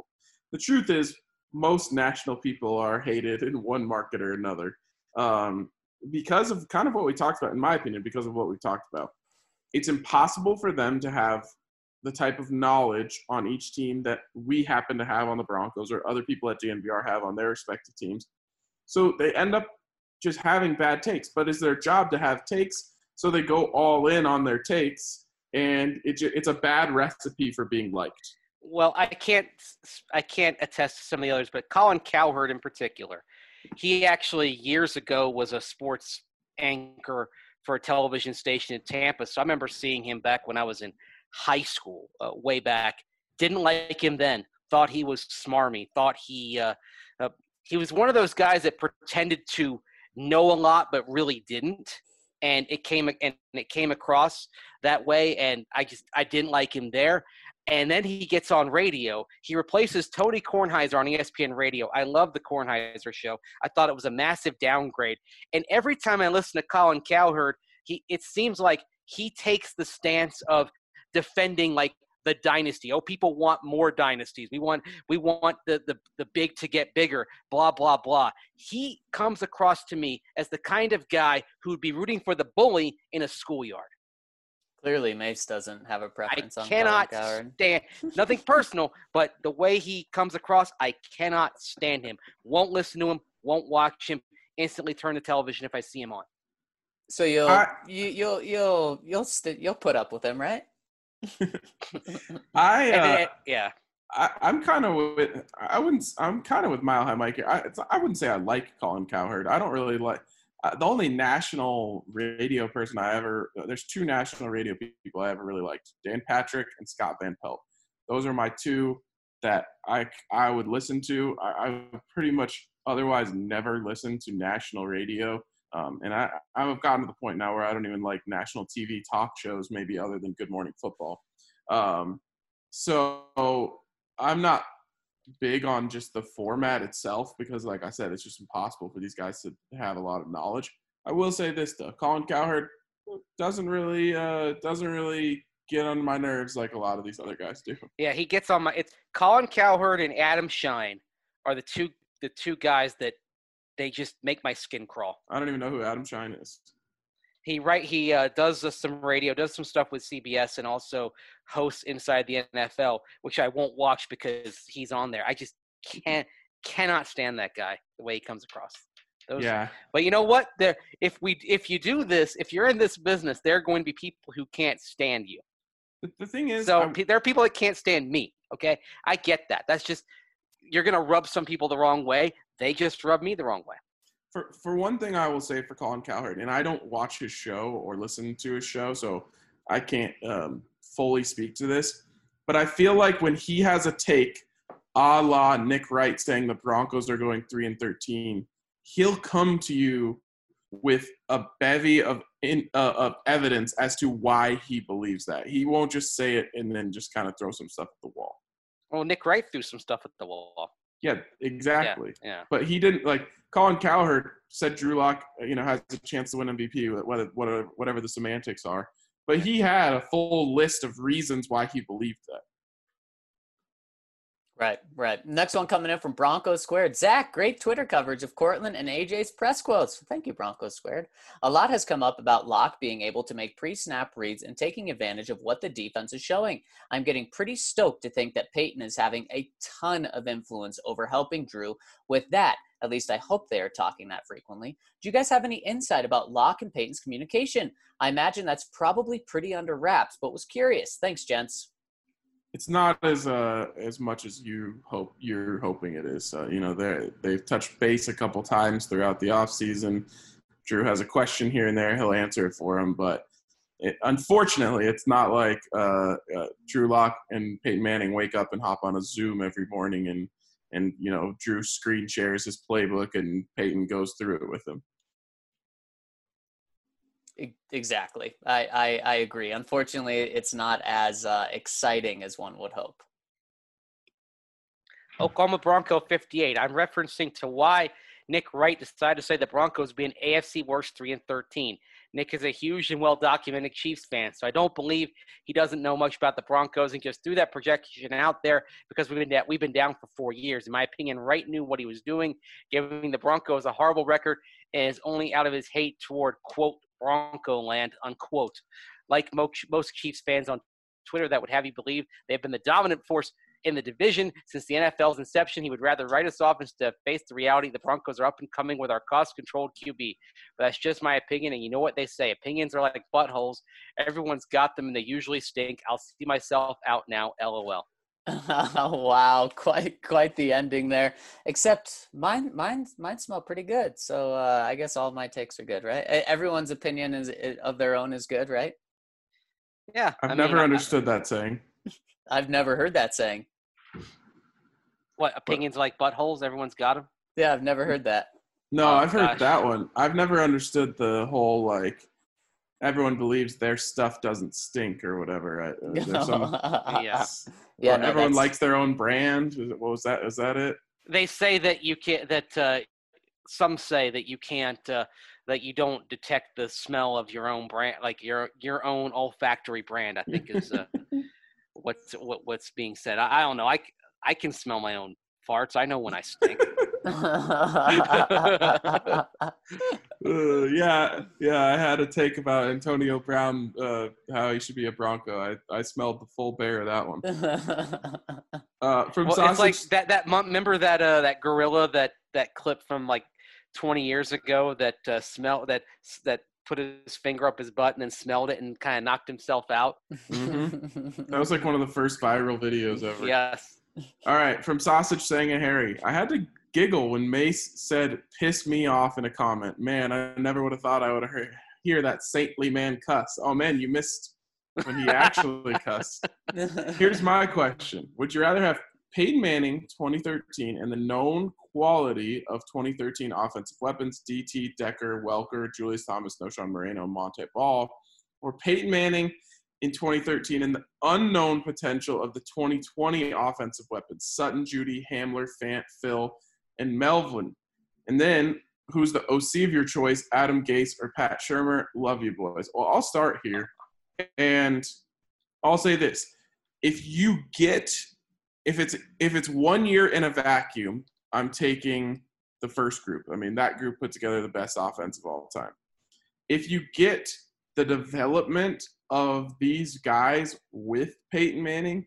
the truth is most national people are hated in one market or another um, because of kind of what we talked about, in my opinion, because of what we talked about. It's impossible for them to have the type of knowledge on each team that we happen to have on the Broncos or other people at D N V R have on their respective teams. So they end up just having bad takes, but it's their job to have takes, so they go all in on their takes, and it, it's a bad recipe for being liked. Well, I can't I can't attest to some of the others, but Colin Cowherd in particular, he actually years ago was a sports anchor for a television station in Tampa. So I remember seeing him back when I was in high school, uh, way back. Didn't like him then. Thought he was smarmy. Thought he uh, uh, he was one of those guys that pretended to know a lot but really didn't, and it came and it came across that way. And I just I didn't like him there. And then he gets on radio. He replaces Tony Kornheiser on E S P N Radio. I love the Kornheiser show. I thought it was a massive downgrade. And every time I listen to Colin Cowherd, he it seems like he takes the stance of defending like the dynasty. Oh, people want more dynasties. We want we want the, the, the big to get bigger, blah, blah, blah. He comes across to me as the kind of guy who would be rooting for the bully in a schoolyard. Clearly, Mace doesn't have a preference I on cannot Colin Cowherd. stand nothing personal, but the way he comes across, I cannot stand him. Won't listen to him, won't watch him, instantly turn the television if I see him on. So you'll I, you, you'll you'll you'll st- you'll put up with him, right? I, uh, And then, yeah. I I'm kind of with I wouldn't I'm kind of with Mile High Mike here. I it's, I wouldn't say I like Colin Cowherd. I don't really like uh, the only national radio person I ever there's two national radio people I ever really liked: Dan Patrick and Scott Van Pelt. Those are my two that I I would listen to. I, I pretty much otherwise never listen to national radio. Um, and I, I've gotten to the point now where I don't even like national T V talk shows, maybe other than Good Morning Football. Um, so I'm not big on just the format itself because, like I said, it's just impossible for these guys to have a lot of knowledge. I will say this though: Colin Cowherd doesn't really uh, doesn't really get on my nerves like a lot of these other guys do. Yeah, he gets on my. It's Colin Cowherd and Adam Shine are the two the two guys that they just make my skin crawl. I don't even know who Adam Shine is. He right he uh, does uh, some radio, does some stuff with C B S, and also hosts Inside the N F L, which I won't watch because he's on there. I just can't cannot stand that guy the way he comes across. Those, yeah. But you know what? There, if we if you do this, if you're in this business, there are going to be people who can't stand you. The, the thing is, so I'm, there are people that can't stand me. Okay, I get that. That's just you're gonna rub some people the wrong way. They just rub me the wrong way. For for one thing, I will say for Colin Cowherd, and I don't watch his show or listen to his show, so I can't um, fully speak to this. But I feel like when he has a take, a la Nick Wright saying the Broncos are going three and thirteen, he'll come to you with a bevy of in, uh, of evidence as to why he believes that. He won't just say it and then just kind of throw some stuff at the wall. Well, Nick Wright threw some stuff at the wall. Yeah, exactly. Yeah, yeah. But he didn't like Colin Cowherd said Drew Lock, you know, has a chance to win M V P, whether whatever whatever the semantics are. But he had a full list of reasons why he believed that. Right, right. Next one coming in from Broncos Squared. Zach, great Twitter coverage of Cortland and A J's press quotes. Thank you, Broncos Squared. A lot has come up about Locke being able to make pre-snap reads and taking advantage of what the defense is showing. I'm getting pretty stoked to think that Peyton is having a ton of influence over helping Drew with that. At least I hope they are talking that frequently. Do you guys have any insight about Locke and Peyton's communication? I imagine that's probably pretty under wraps, but was curious. Thanks, gents. It's not as uh as much as you hope you're hoping it is. Uh, you know, they they've touched base a couple times throughout the offseason. Drew has a question here and there; he'll answer it for him. But it, unfortunately, it's not like uh, uh, Drew Lock and Peyton Manning wake up and hop on a Zoom every morning and and you know Drew screen shares his playbook and Peyton goes through it with him. Exactly. I, I, I agree. Unfortunately, it's not as uh, exciting as one would hope. Oklahoma Bronco fifty-eight. I'm referencing to why Nick Wright decided to say the Broncos would be an A F C worst three and thirteen. Nick is a huge and well-documented Chiefs fan, so I don't believe he doesn't know much about the Broncos and just threw that projection out there because we've been da- we've been down for four years. In my opinion, Wright knew what he was doing, giving the Broncos a horrible record, and is only out of his hate toward, quote, Bronco land, unquote. Like most, most Chiefs fans on Twitter that would have you believe they've been the dominant force in the division since the N F L's inception. He would rather write us off instead of face the reality the Broncos are up and coming with our cost-controlled Q B. But that's just my opinion, and you know what they say. Opinions are like buttholes. Everyone's got them, and they usually stink. I'll see myself out now, LOL. Wow, quite quite the ending there. Except mine, mine, mine smell pretty good. So uh, I guess all my takes are good, right? Everyone's opinion is of their own is good, right? Yeah. I've I never mean, understood I, that saying. I've never heard that saying. What, opinions like buttholes? Everyone's got them? Yeah, I've never heard that. No, Oh, I've heard gosh. that one. I've never understood the whole, like, everyone believes their stuff doesn't stink or whatever. I, there's some, Yeah. Yeah, well, no, everyone that's- likes their own brand. What was that? Is that it? They say that you can't, that uh, some say that you can't, uh, that you don't detect the smell of your own brand, like your your own olfactory brand, I think is uh, what's what, what's being said. I, I don't know. I, I can smell my own farts. I know when I stink. Uh, yeah, yeah. I had a take about Antonio Brown, uh, how he should be a Bronco. I, I smelled the full bear of that one. Uh, from Well, sausage. it's like that. That mon- remember that uh, that gorilla that that clip from like twenty years ago that uh, smell that that put his finger up his butt and then smelled it and kind of knocked himself out. Mhm. That was like one of the first viral videos ever. Yes. All right, from Sausage saying a Harry. I had to giggle when Mace said "piss me off" in a comment. Man, I never would have thought I would have heard, hear that saintly man cuss. Oh man, you missed when he actually cussed. Here's my question: would you rather have Peyton Manning twenty thirteen and the known quality of twenty thirteen offensive weapons, D T, Decker, Welker, Julius Thomas, Noshawn Moreno, Monte Ball, or Peyton Manning in twenty thirteen and the unknown potential of the twenty twenty offensive weapons, Sutton, Judy, Hamler, Fant, Phil, and Melvin? And then who's the O C of your choice, Adam Gase or Pat Shurmur? Love you, boys. Well, I'll start here, and I'll say this. If you get – if it's if it's one year in a vacuum, I'm taking the first group. I mean, that group put together the best offense of all time. If you get the development – of these guys with Peyton Manning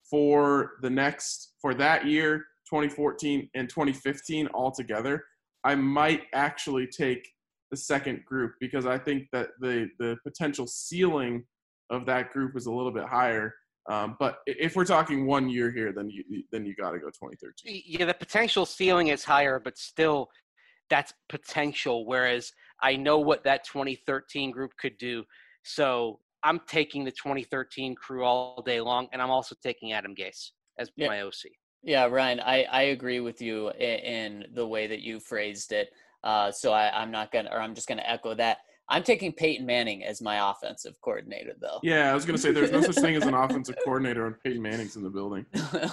for the next for that year, twenty fourteen and twenty fifteen altogether, I might actually take the second group because I think that the the potential ceiling of that group is a little bit higher. Um, but if we're talking one year here, then you then you got to go twenty thirteen. Yeah, the potential ceiling is higher, but still, that's potential. Whereas I know what that twenty thirteen group could do, so I'm taking the twenty thirteen crew all day long, and I'm also taking Adam Gase as Yeah. my O C. Yeah, Ryan, I, I agree with you in, in the way that you phrased it. Uh, so I, I'm not gonna, or I'm just gonna echo that. I'm taking Peyton Manning as my offensive coordinator, though. Yeah, I was gonna say there's no such thing as an offensive coordinator when Peyton Manning's in the building.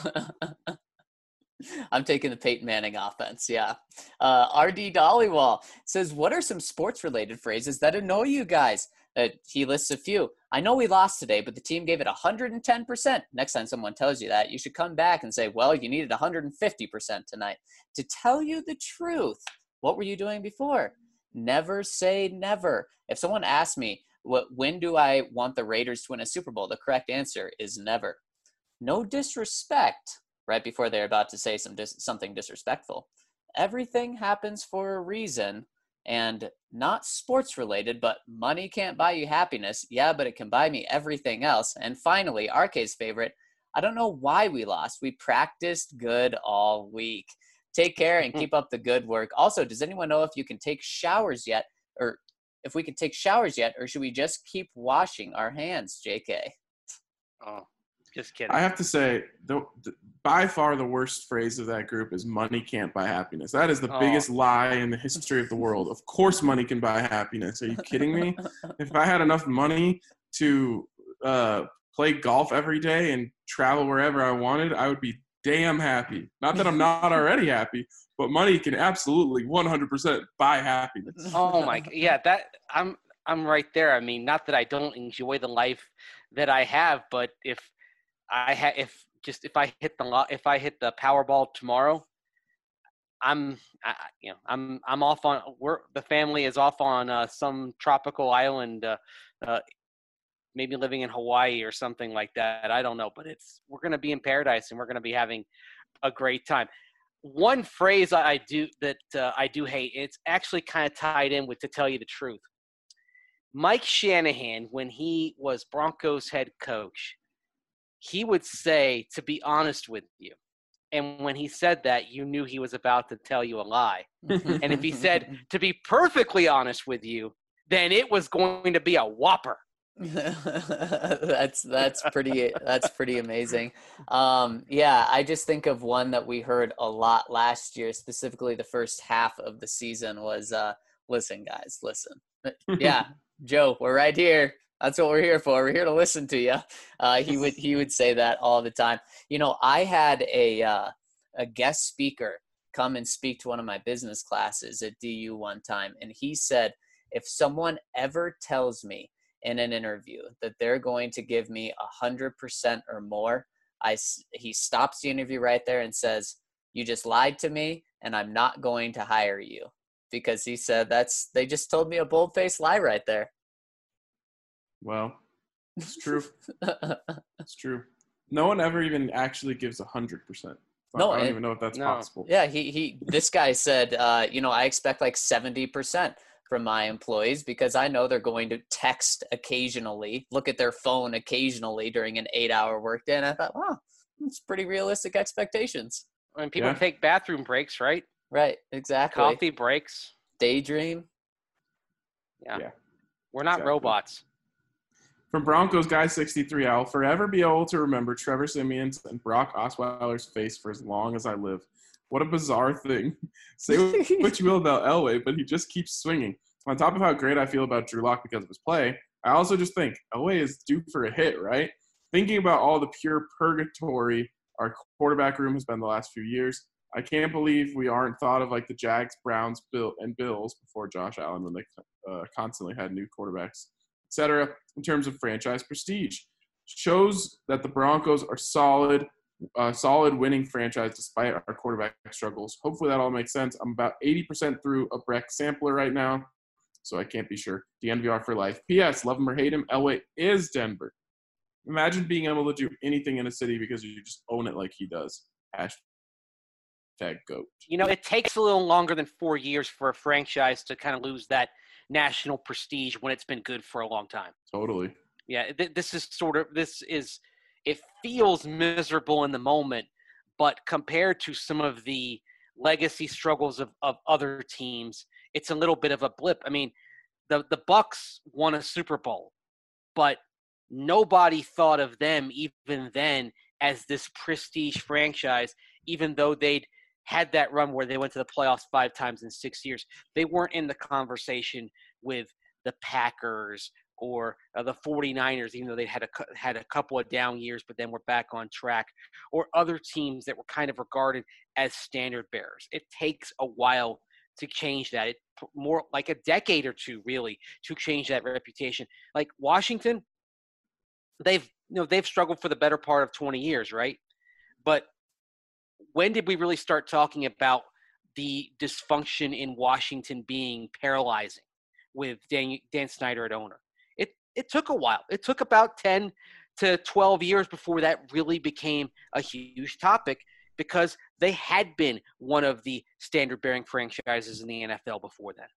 I'm taking the Peyton Manning offense, yeah. Uh, R D Dollywall says, what are some sports-related phrases that annoy you guys? Uh, he lists a few. I know we lost today, but the team gave it one hundred ten percent. Next time someone tells you that, you should come back and say, well, you needed one hundred fifty percent tonight. To tell you the truth, what were you doing before? Never say never. If someone asks me, what, when do I want the Raiders to win a Super Bowl? The correct answer is never. No disrespect. Right before they're about to say some dis- something disrespectful. Everything happens for a reason, and not sports related, but money can't buy you happiness. Yeah, but it can buy me everything else. And finally, R K's favorite, I don't know why we lost. We practiced good all week. Take care and keep up the good work. Also, does anyone know if you can take showers yet, or if we can take showers yet, or should we just keep washing our hands, J K? Oh, just kidding. I have to say, the, the, by far the worst phrase of that group is money can't buy happiness. That is the Oh. biggest lie in the history of the world. Of course money can buy happiness. Are you kidding me? If I had enough money to uh, play golf every day and travel wherever I wanted, I would be damn happy. Not that I'm not already happy, but money can absolutely one hundred percent buy happiness. Oh my, yeah, that I'm I'm right there. I mean, not that I don't enjoy the life that I have, but if I ha- if just if I hit the lo- if I hit the Powerball tomorrow, I'm I, you know I'm I'm off on we're the family is off on uh, some tropical island, uh, uh, maybe living in Hawaii or something like that. I don't know, but it's we're gonna be in paradise and we're gonna be having a great time. One phrase I do that uh, I do hate. It's actually kind of tied in with "to tell you the truth." Mike Shanahan, when he was Broncos head coach, he would say, "to be honest with you." And when he said that, you knew he was about to tell you a lie. And if he said, "to be perfectly honest with you," then it was going to be a whopper. that's that's pretty that's pretty amazing. Um, yeah, I just think of one that we heard a lot last year, specifically the first half of the season was, uh, listen, guys, listen. Yeah, Joe, we're right here. That's what we're here for. We're here to listen to you. Uh, he would he would say that all the time. You know, I had a uh, a guest speaker come and speak to one of my business classes at D U one time, and he said, if someone ever tells me in an interview that they're going to give me a hundred percent or more, I he stops the interview right there and says, "You just lied to me, and I'm not going to hire you," because he said that's they just told me a bold-faced lie right there. Well, it's true. It's true. No one ever even actually gives a hundred percent. No, I don't it, even know if that's no. possible. Yeah, he he. This guy said, uh, you know, I expect like seventy percent from my employees because I know they're going to text occasionally, look at their phone occasionally during an eight-hour workday. And I thought, wow, that's pretty realistic expectations. I mean, people Yeah. take bathroom breaks, right? Right, exactly. Coffee breaks. Daydream. Yeah. Yeah, We're not exactly. robots. From Broncos Guy sixty-three, I'll forever be able to remember Trevor Siemian's and Brock Osweiler's face for as long as I live. What a bizarre thing. Say what you will about Elway, but he just keeps swinging. On top of how great I feel about Drew Lock because of his play, I also just think Elway is due for a hit, right? Thinking about all the pure purgatory our quarterback room has been the last few years, I can't believe we aren't thought of like the Jags, Browns, Bill, and Bills before Josh Allen when they uh, constantly had new quarterbacks, et cetera, in terms of franchise prestige. Shows that the Broncos are solid, uh, solid winning franchise despite our quarterback struggles. Hopefully that all makes sense. I'm about eighty percent through a Breck sampler right now, so I can't be sure. D N V R for life. P S. Love him or hate him, Elway is Denver. Imagine being able to do anything in a city because you just own it like he does. Hashtag GOAT. You know, it takes a little longer than four years for a franchise to kind of lose that national prestige when it's been good for a long time. Totally. Yeah, th- this is sort of, this is, it feels miserable in the moment, but compared to some of the legacy struggles of, of other teams, it's a little bit of a blip. I mean, the, the Bucks won a Super Bowl, but nobody thought of them even then as this prestige franchise, even though they'd had that run where they went to the playoffs five times in six years. They weren't in the conversation with the Packers or uh, the 49ers, even though they had a, had a couple of down years, but then were back on track, or other teams that were kind of regarded as standard bearers. It takes a while to change that. It more like a decade or two, really, to change that reputation. Like Washington, they've you know they've struggled for the better part of twenty years, right? But when did we really start talking about the dysfunction in Washington being paralyzing with Dan, Dan Snyder at owner? It it took a while. It took about ten to twelve years before that really became a huge topic, because they had been one of the standard-bearing franchises in the N F L before that.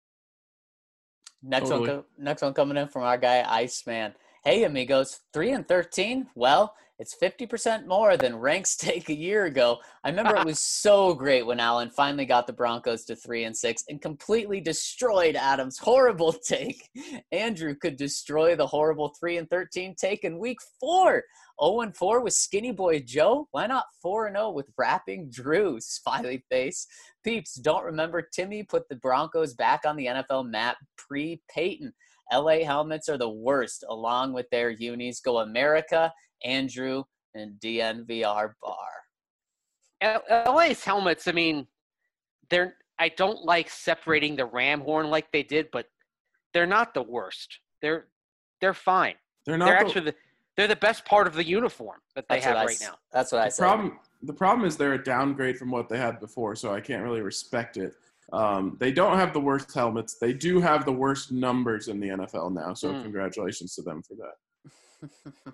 Next Totally. one, co- next one coming in from our guy Iceman. Hey, amigos, three and thirteen. Well, it's fifty percent more than Rank's take a year ago. I remember it was so great when Allen finally got the Broncos to three and six and completely destroyed Adam's horrible take. Andrew could destroy the horrible three and thirteen take in week four. oh and four with Skinny Boy Joe. Why not four and oh with Rapping Drew? Smiley face. Peeps, don't remember Timmy put the Broncos back on the N F L map pre-Peyton. L A helmets are the worst, along with their unis. Go America, Andrew, and D N V R bar. L A's helmets, I mean, they're. I don't like separating the ram horn like they did, but they're not the worst. they're they're fine. They're not They're the, actually the they're the best part of the uniform that they That's have what I right s- now. That's what I the said. problem. The problem is they're a downgrade from what they had before, so I can't really respect it. Um, they don't have the worst helmets. They do have the worst numbers in the N F L now, so Mm. congratulations to them for that.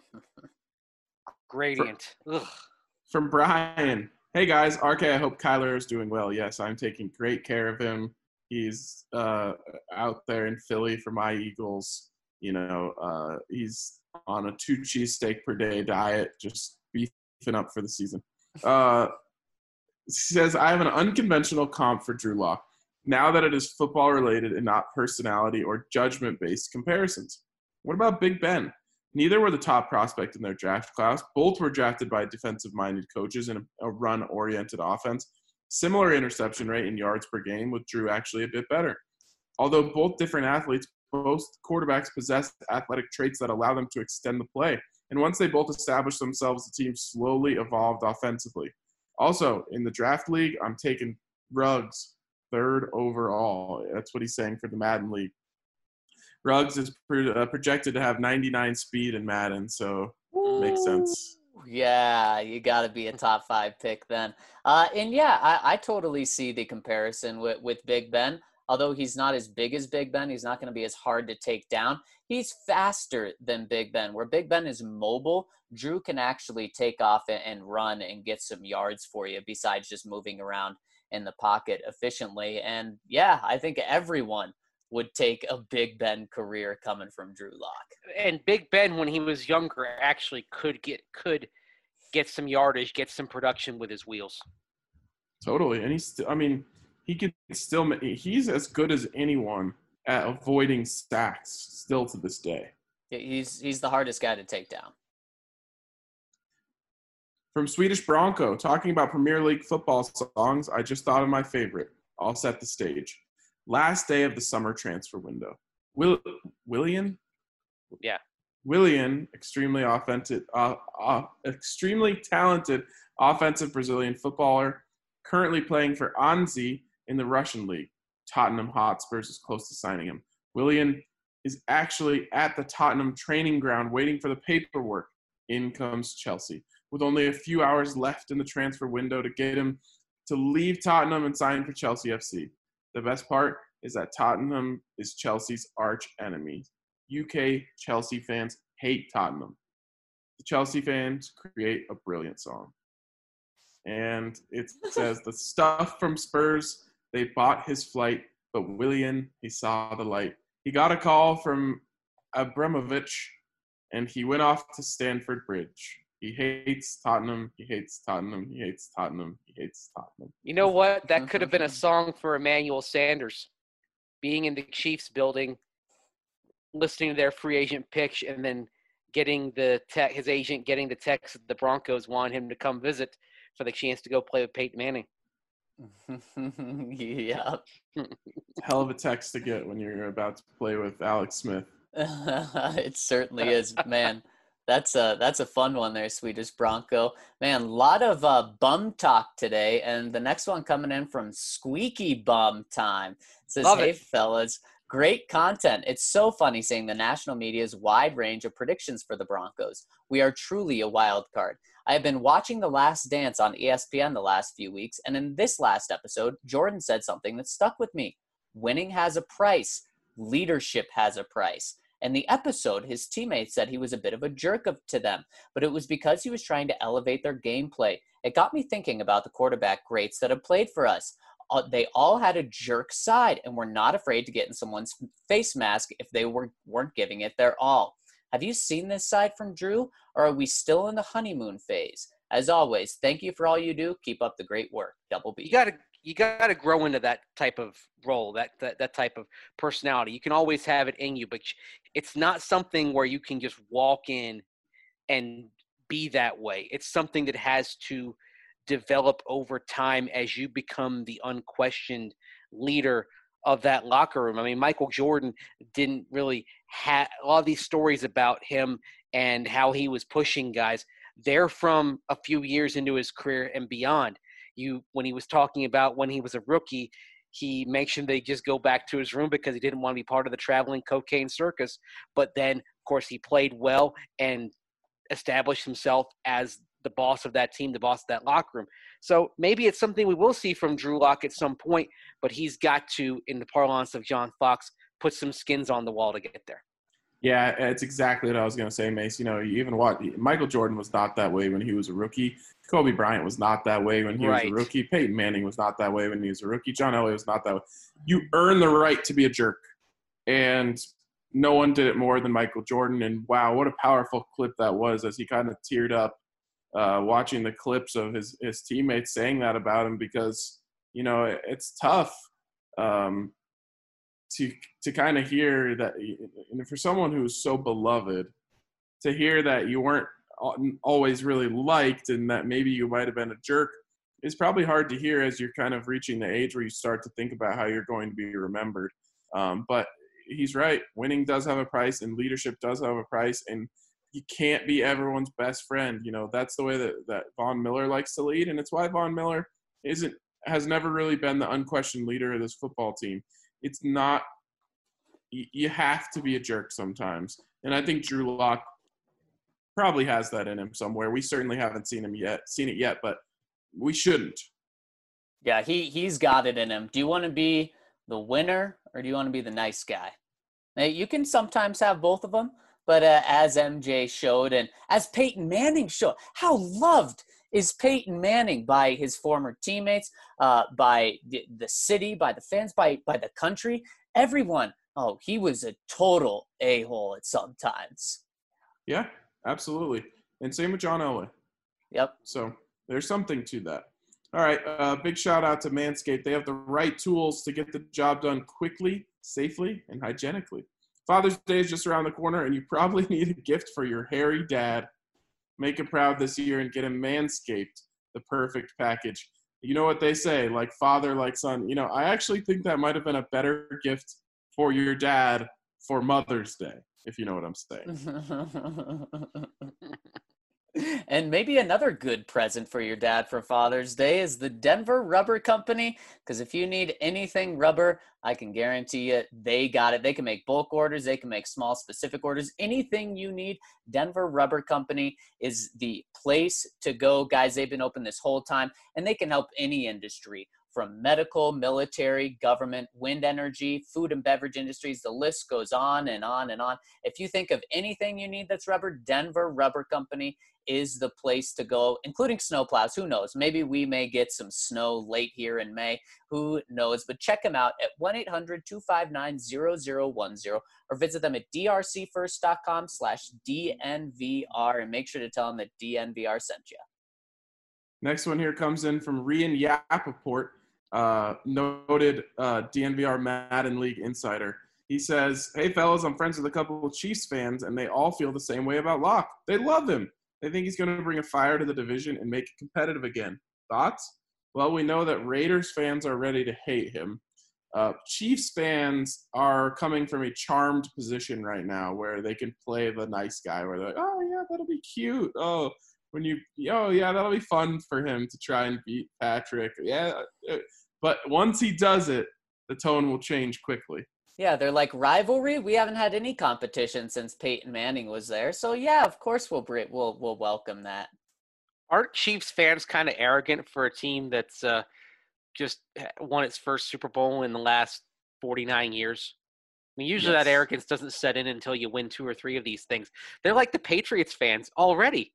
Gradient. Ugh. From Brian. Hey guys, R K, I hope Kyler is doing well. Yes, I'm taking great care of him. He's uh, out there in Philly for my Eagles. You know, uh, he's on a two cheesesteak per day diet, just beefing up for the season. Uh, he says, I have an unconventional comp for Drew Lock, now that it is football related and not personality or judgment based comparisons. What about Big Ben? Neither were the top prospect in their draft class. Both were drafted by defensive-minded coaches in a, a run-oriented offense. Similar interception rate and yards per game, with Drew actually a bit better. Although both different athletes, both quarterbacks possess athletic traits that allow them to extend the play. And once they both established themselves, the team slowly evolved offensively. Also, in the draft league, I'm taking Ruggs third overall. That's what he's saying for the Madden League. Ruggs is pro- uh, projected to have ninety-nine speed in Madden, so makes sense. Yeah, you got to be a top five pick then. Uh, and yeah, I, I totally see the comparison with, with Big Ben. Although he's not as big as Big Ben, he's not going to be as hard to take down. He's faster than Big Ben. Where Big Ben is mobile, Drew can actually take off and, and run and get some yards for you besides just moving around in the pocket efficiently. And yeah, I think everyone would take a Big Ben career coming from Drew Lock. And Big Ben, when he was younger, actually could get could get some yardage, get some production with his wheels. Totally, and he's still, I mean, he could still ma- he's as good as anyone at avoiding sacks still to this day. He's he's the hardest guy to take down. From Swedish Bronco, talking about Premier League football songs, I just thought of my favorite. I'll set the stage. Last day of the summer transfer window. Will Willian? Yeah. Willian, extremely offensive, uh, uh, extremely talented offensive Brazilian footballer, currently playing for Anzi in the Russian league. Tottenham Hotspurs is close to signing him. Willian is actually at the Tottenham training ground waiting for the paperwork. In comes Chelsea. With only a few hours left in the transfer window to get him to leave Tottenham and sign for Chelsea F C. The best part is that Tottenham is Chelsea's arch enemy. U K Chelsea fans hate Tottenham. The Chelsea fans create a brilliant song. And it says, the stuff from Spurs, they bought his flight, but Willian, he saw the light. He got a call from Abramovich, and he went off to Stamford Bridge. He hates Tottenham. He hates Tottenham. He hates Tottenham. He hates Tottenham. You know what? That could have been a song for Emmanuel Sanders. Being in the Chiefs building, listening to their free agent pitch, and then getting the te- his agent getting the text that the Broncos want him to come visit for the chance to go play with Peyton Manning. Yeah. Hell of a text to get when you're about to play with Alex Smith. It certainly is, man. That's a that's a fun one there, Swedish Bronco. Man, a lot of uh, bum talk today, and the next one coming in from Squeaky Bum Time. It says, Love hey, it. fellas, great content. It's so funny seeing the national media's wide range of predictions for the Broncos. We are truly a wild card. I have been watching The Last Dance on E S P N the last few weeks, and in this last episode, Jordan said something that stuck with me. Winning has a price. Leadership has a price. In the episode, his teammates said he was a bit of a jerk of, to them, but it was because he was trying to elevate their gameplay. It got me thinking about the quarterback greats that have played for us. Uh, they all had a jerk side and were not afraid to get in someone's face mask if they were, weren't giving it their all. Have you seen this side from Drew, or are we still in the honeymoon phase? As always, thank you for all you do. Keep up the great work. Double B. You got to you got to grow into that type of role, that, that that type of personality. You can always have it in you, but it's not something where you can just walk in and be that way. It's something that has to develop over time as you become the unquestioned leader of that locker room. I mean, Michael Jordan didn't really have a lot of these stories about him and how he was pushing guys. They're from a few years into his career and beyond. You, when he was talking about when he was a rookie, he mentioned they just go back to his room because he didn't want to be part of the traveling cocaine circus. But then, of course, he played well and established himself as the boss of that team, the boss of that locker room. So maybe it's something we will see from Drew Lock at some point, but he's got to, in the parlance of John Fox, put some skins on the wall to get there. Yeah, it's exactly what I was going to say, Mace. You know, you even watch Michael Jordan was not that way when he was a rookie. Kobe Bryant was not that way when he Right. was a rookie. Peyton Manning was not that way when he was a rookie. John Elway was not that way. You earn the right to be a jerk. And no one did it more than Michael Jordan. And wow, what a powerful clip that was as he kind of teared up uh, watching the clips of his, his teammates saying that about him because, you know, it, it's tough. Um, to to kind of hear that, and for someone who's so beloved, to hear that you weren't always really liked and that maybe you might have been a jerk is probably hard to hear as you're kind of reaching the age where you start to think about how you're going to be remembered. Um, but he's right. Winning does have a price and leadership does have a price, and you can't be everyone's best friend. You know, that's the way that, that Von Miller likes to lead, and it's why Von Miller isn't has never really been the unquestioned leader of this football team. It's not – you have to be a jerk sometimes. And I think Drew Lock probably has that in him somewhere. We certainly haven't seen him yet, seen it yet, but we shouldn't. Yeah, he, he's got it in him. Do you want to be the winner or do you want to be the nice guy? Now, you can sometimes have both of them, but uh, as M J showed and as Peyton Manning showed, how loved is Peyton Manning by his former teammates, uh, by the, the city, by the fans, by by the country, everyone. Oh, he was a total a-hole at some times. Yeah, absolutely. And same with John Elway. Yep. So there's something to that. All right, uh, big shout out to Manscaped. They have the right tools to get the job done quickly, safely, and hygienically. Father's Day is just around the corner, and you probably need a gift for your hairy dad. Make him proud this year and get him Manscaped, the perfect package. You know what they say, like father, like son. You know, I actually think that might have been a better gift for your dad for Mother's Day, if you know what I'm saying. And maybe another good present for your dad for Father's Day is the Denver Rubber Company, because if you need anything rubber, I can guarantee you they got it. They can make bulk orders. They can make small specific orders. Anything you need, Denver Rubber Company is the place to go. Guys, they've been open this whole time, and they can help any industry from medical, military, government, wind energy, food and beverage industries. The list goes on and on and on. If you think of anything you need that's rubber, Denver Rubber Company is the place to go, including snowplows. Who knows? Maybe we may get some snow late here in May. Who knows? But check them out at one eight hundred two five nine zero zero one zero or visit them at drcfirst.com slash DNVR and make sure to tell them that D N V R sent you. Next one here comes in from Rian Yapaport, uh, noted uh, D N V R Madden League insider. He says, "Hey, fellas, I'm friends with a couple of Chiefs fans, and they all feel the same way about Locke. They love him. They think he's going to bring a fire to the division and make it competitive again. Thoughts?" Well, we know that Raiders fans are ready to hate him. Uh, Chiefs fans are coming from a charmed position right now where they can play the nice guy, where they're like, oh, yeah, that'll be cute. Oh, when you, oh, yeah, that'll be fun for him to try and beat Patrick. Yeah. But once he does it, the tone will change quickly. Yeah, they're like rivalry. We haven't had any competition since Peyton Manning was there. So, yeah, of course we'll we'll we'll welcome that. Aren't Chiefs fans kind of arrogant for a team that's uh, just won its first Super Bowl in the last forty-nine years? I mean, usually Yes. that arrogance doesn't set in until you win two or three of these things. They're like the Patriots fans already.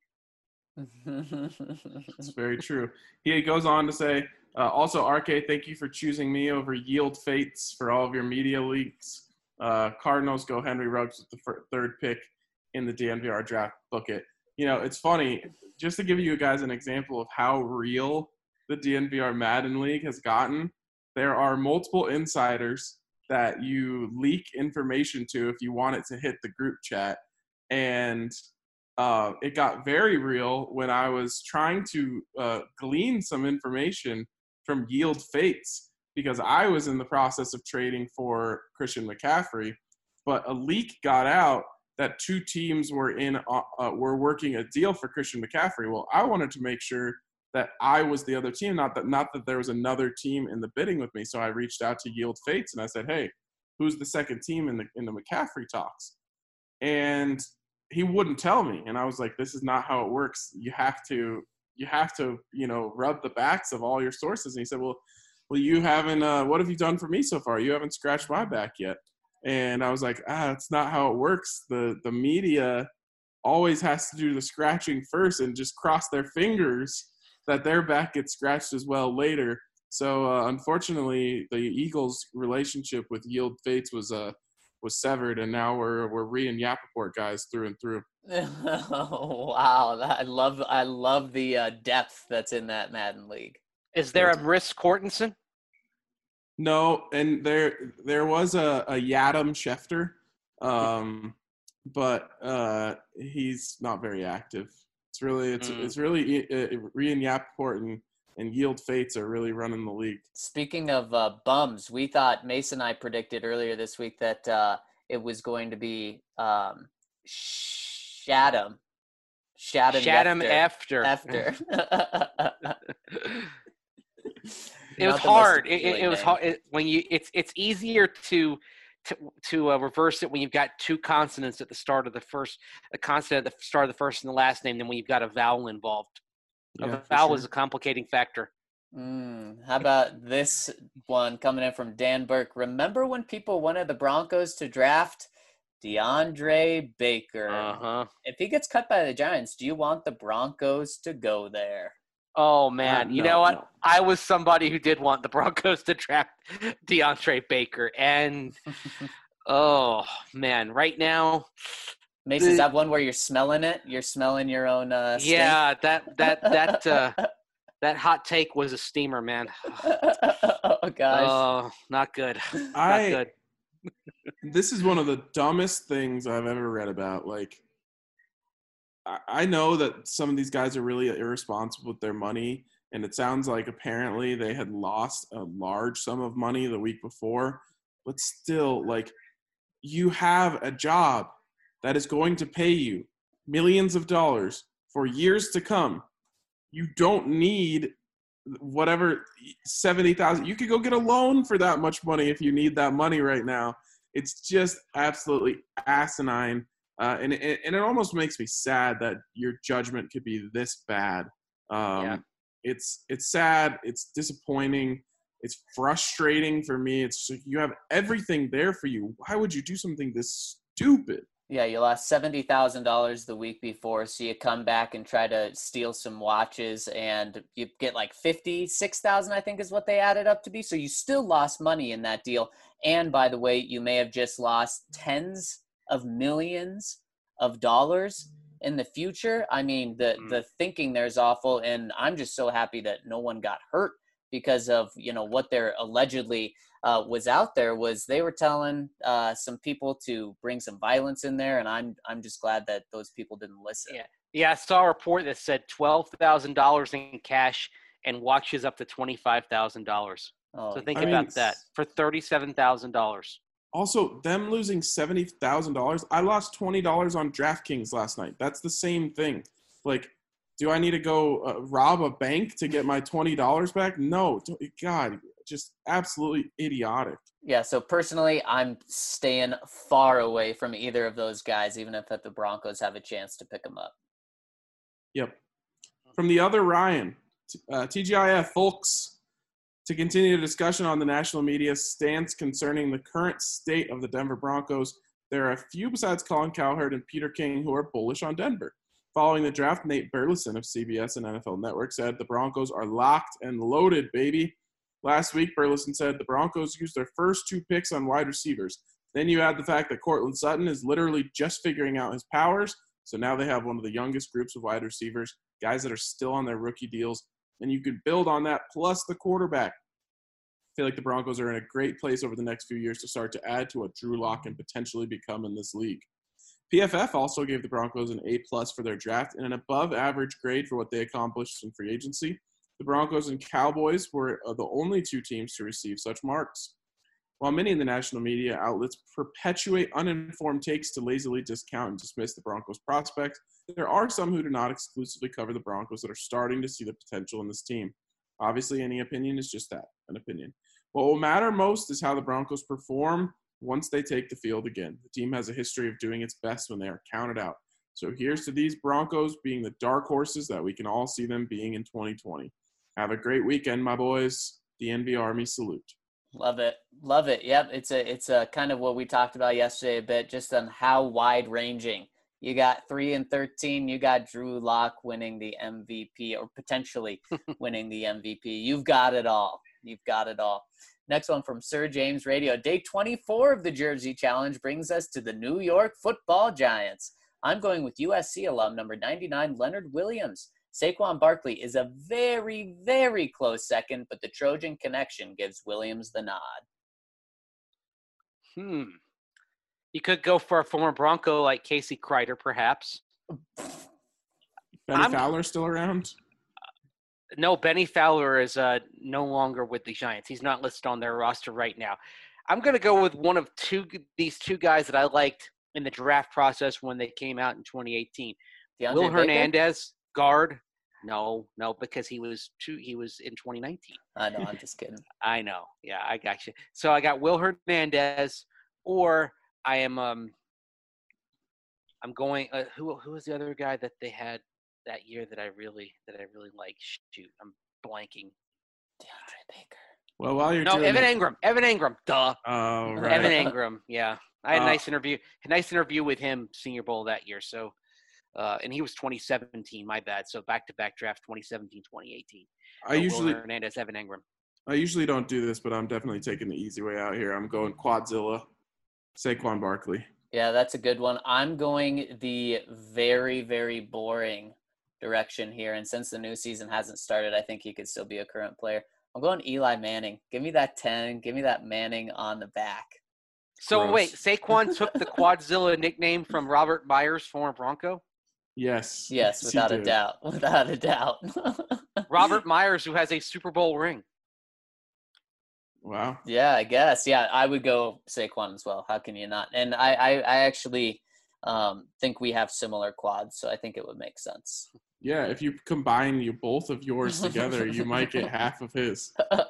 It's very true. He goes on to say, uh, also, R K, thank you for choosing me over Yield Fates for all of your media leaks. Uh, Cardinals go Henry Ruggs with the fir- third pick in the D N V R draft. Book it. You know, it's funny, just to give you guys an example of how real the D N V R Madden League has gotten, there are multiple insiders that you leak information to if you want it to hit the group chat. And uh, it got very real when I was trying to uh, glean some information from Yield Fates because I was in the process of trading for Christian McCaffrey, but a leak got out that two teams were in uh, uh, were working a deal for Christian McCaffrey. Well, I wanted to make sure that I was the other team, not that not that there was another team in the bidding with me. So I reached out to Yield Fates and I said, hey, who's the second team in the in the McCaffrey talks? And he wouldn't tell me. And I was like, this is not how it works. You have to you have to, you know, rub the backs of all your sources. And he said, well, well, you haven't uh, what have you done for me so far? You haven't scratched my back yet. And I was like, ah, that's not how it works. The the media always has to do the scratching first and just cross their fingers that their back gets scratched as well later. So uh, unfortunately, the Eagles' relationship with Yield Fates was uh was severed, and now we're we're Rhee and Yapaport guys through and through. Oh, wow, I love I love the uh, depth that's in that Madden League. Is there a Briss Cortenson? No, and there there was a, a Yadam Schefter, um, but uh, he's not very active. It's really it's mm. it's really uh, Rhee and Yapaport and, and Yield Fates are really running the league. Speaking of uh, bums, we thought Mason and I predicted earlier this week that uh, it was going to be um, Shadam. Shadam, Shadam after. After. It was hard. It, it, it was hard it, when you. It's it's easier to to to uh, reverse it when you've got two consonants at the start of the first, a consonant at the start of the first and the last name, than when you've got a vowel involved. Yeah, a vowel sure. is a complicating factor. Mm, how about this one coming in from Dan Burke? Remember when people wanted the Broncos to draft DeAndre Baker? Uh-huh. If he gets cut by the Giants, do you want the Broncos to go there? Oh, man. Uh, you no, know what? no. I was somebody who did want the Broncos to draft DeAndre Baker. And, oh, man, right now. Mason, is that one where you're smelling it? You're smelling your own uh, stink? Yeah, that, that, that, uh, that hot take was a steamer, man. Oh, gosh. Oh, not good. I, not good. This is one of the dumbest things I've ever read about. Like, I know that some of these guys are really irresponsible with their money, and it sounds like apparently they had lost a large sum of money the week before. But still, like, you have a job that is going to pay you millions of dollars for years to come. You don't need whatever seventy thousand. You could go get a loan for that much money if you need that money right now. It's just absolutely asinine. Uh, and, it, and it almost makes me sad that your judgment could be this bad. Um, yeah. It's it's sad. It's disappointing. It's frustrating for me. It's you have everything there for you. Why would you do something this stupid? Yeah, you lost seventy thousand dollars the week before, so you come back and try to steal some watches, and you get like fifty-six thousand dollars, I think is what they added up to be. So you still lost money in that deal. And by the way, you may have just lost tens of millions of dollars in the future. I mean, the Mm. the thinking there is awful, and I'm just so happy that no one got hurt because of, you know, what they're allegedly uh, was out there was they were telling uh, some people to bring some violence in there, and I'm I'm just glad that those people didn't listen. Yeah, yeah. I saw a report that said twelve thousand dollars in cash and watches up to twenty-five thousand dollars. Oh, So think I about mean, that for thirty-seven thousand dollars. Also, them losing seventy thousand dollars. I lost twenty dollars on DraftKings last night. That's the same thing. Like, do I need to go uh, rob a bank to get my twenty dollars back? No. Don't- God, just absolutely idiotic. yeah. So personally, I'm staying far away from either of those guys, even if the Broncos have a chance to pick them up. Yep. From the other Ryan, uh, T G I F, folks. To continue the discussion on the national media's stance concerning the current state of the Denver Broncos, there are a few besides Colin Cowherd and Peter King who are bullish on Denver. Following the draft, Nate Burleson of C B S and N F L Network said the Broncos are locked and loaded, baby. Last week, Burleson said the Broncos used their first two picks on wide receivers. Then you add the fact that Cortland Sutton is literally just figuring out his powers, so now they have one of the youngest groups of wide receivers, guys that are still on their rookie deals, and you could build on that plus the quarterback. I feel like the Broncos are in a great place over the next few years to start to add to what Drew Lock can potentially become in this league. P F F also gave the Broncos an A-plus for their draft and an above-average grade for what they accomplished in free agency. The Broncos and Cowboys were the only two teams to receive such marks. While many in the national media outlets perpetuate uninformed takes to lazily discount and dismiss the Broncos' prospects, there are some who do not exclusively cover the Broncos that are starting to see the potential in this team. Obviously, any opinion is just that, an opinion. What will matter most is how the Broncos perform once they take the field again. The team has a history of doing its best when they are counted out. So here's to these Broncos being the dark horses that we can all see them being in twenty twenty. Have a great weekend, my boys. The N V Army salute. Love it. Love it. Yep. It's a, it's a kind of what we talked about yesterday a bit, just on how wide ranging. You got three and thirteen. You got Drew Lock winning the M V P or potentially winning the M V P. You've got it all. You've got it all. Next one from Sir James Radio. Day twenty-four of the Jersey Challenge brings us to the New York Football Giants. I'm going with U S C alum number ninety-nine, Leonard Williams. Saquon Barkley is a very, very close second, but the Trojan connection gives Williams the nod. Hmm. You could go for a former Bronco like Casey Kreider, perhaps. Benny I'm- Fowler still around? No, Benny Fowler is uh, no longer with the Giants. He's not listed on their roster right now. I'm going to go with one of two these two guys that I liked in the draft process when they came out in twenty eighteen. DeAndre Will Baker? Hernandez, guard. No, no, because he was two. He was in twenty nineteen. I know, I'm just kidding. I know. Yeah, I got you. So I got Will Hernandez, or I am. Um, I'm going. Uh, who who was the other guy that they had that year that I really that I really like? Shoot, I'm blanking. DeAndre Baker. Well, while you're No, doing Evan that- Ingram. Evan Ingram. Duh. Oh, right. Evan Ingram. Yeah, I had a Uh, nice interview. A nice interview with him, Senior Bowl that year. So, uh, and he was twenty seventeen. My bad. So back to back draft, twenty seventeen, twenty eighteen. I So usually Will Hernandez, Evan Ingram. I usually don't do this, but I'm definitely taking the easy way out here. I'm going Quadzilla, Saquon Barkley. Yeah, that's a good one. I'm going the very, very boring direction here. And since the new season hasn't started, I think he could still be a current player. I'm going Eli Manning. Give me that ten. Give me that Manning on the back. So Gross. wait, Saquon took the Quadzilla nickname from Robert Myers, former Bronco. Yes. Yes, he without a did. doubt. Without a doubt. Robert Myers, who has a Super Bowl ring. Wow. Yeah, I guess. Yeah, I would go Saquon as well. How can you not? And I, I, I actually um, think we have similar quads, so I think it would make sense. Yeah, if you combine you both of yours together, you might get half of his.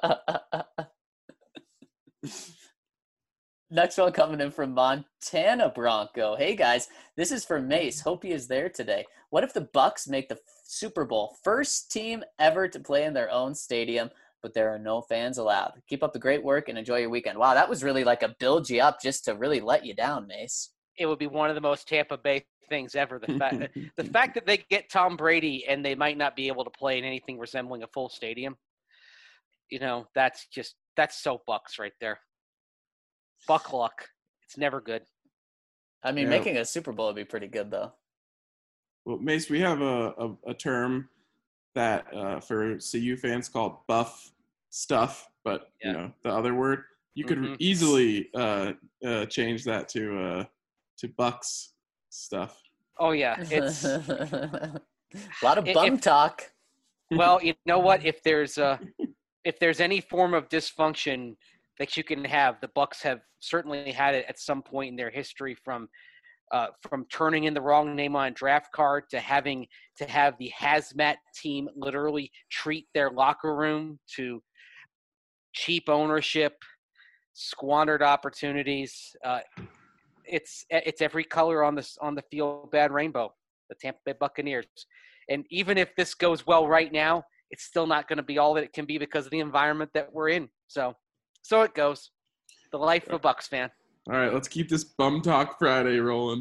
Next one coming in from Montana Bronco. Hey guys, this is for Mace. Hope he is there today. What if the Bucks make the Super Bowl? First team ever to play in their own stadium, but there are no fans allowed. Keep up the great work and enjoy your weekend. Wow, that was really like a build you up just to really let you down, Mace. It would be one of the most Tampa Bay things ever. The fact, the fact that they get Tom Brady and they might not be able to play in anything resembling a full stadium. You know, that's just that's so Bucks right there. Buck luck. It's never good. I mean, Yeah. making a Super Bowl would be pretty good, though. Well, Mace, we have a, a, a term that uh, for C U fans called buff stuff, but Yeah. you know the other word. You could Mhm. easily uh, uh, change that to uh, to Bucks stuff. Oh yeah, it's a lot of If- bum if- talk. well, you know what? If there's uh if there's any form of dysfunction that you can have, the Bucks have certainly had it at some point in their history, from uh, from turning in the wrong name on a draft card to having to have the hazmat team literally treat their locker room, to cheap ownership, squandered opportunities. Uh, it's it's every color on this on the field bad rainbow. The Tampa Bay Buccaneers, and even if this goes well right now, it's still not going to be all that it can be because of the environment that we're in. So, so it goes. The life of a Bucks fan. All right, let's keep this Bum Talk Friday rolling.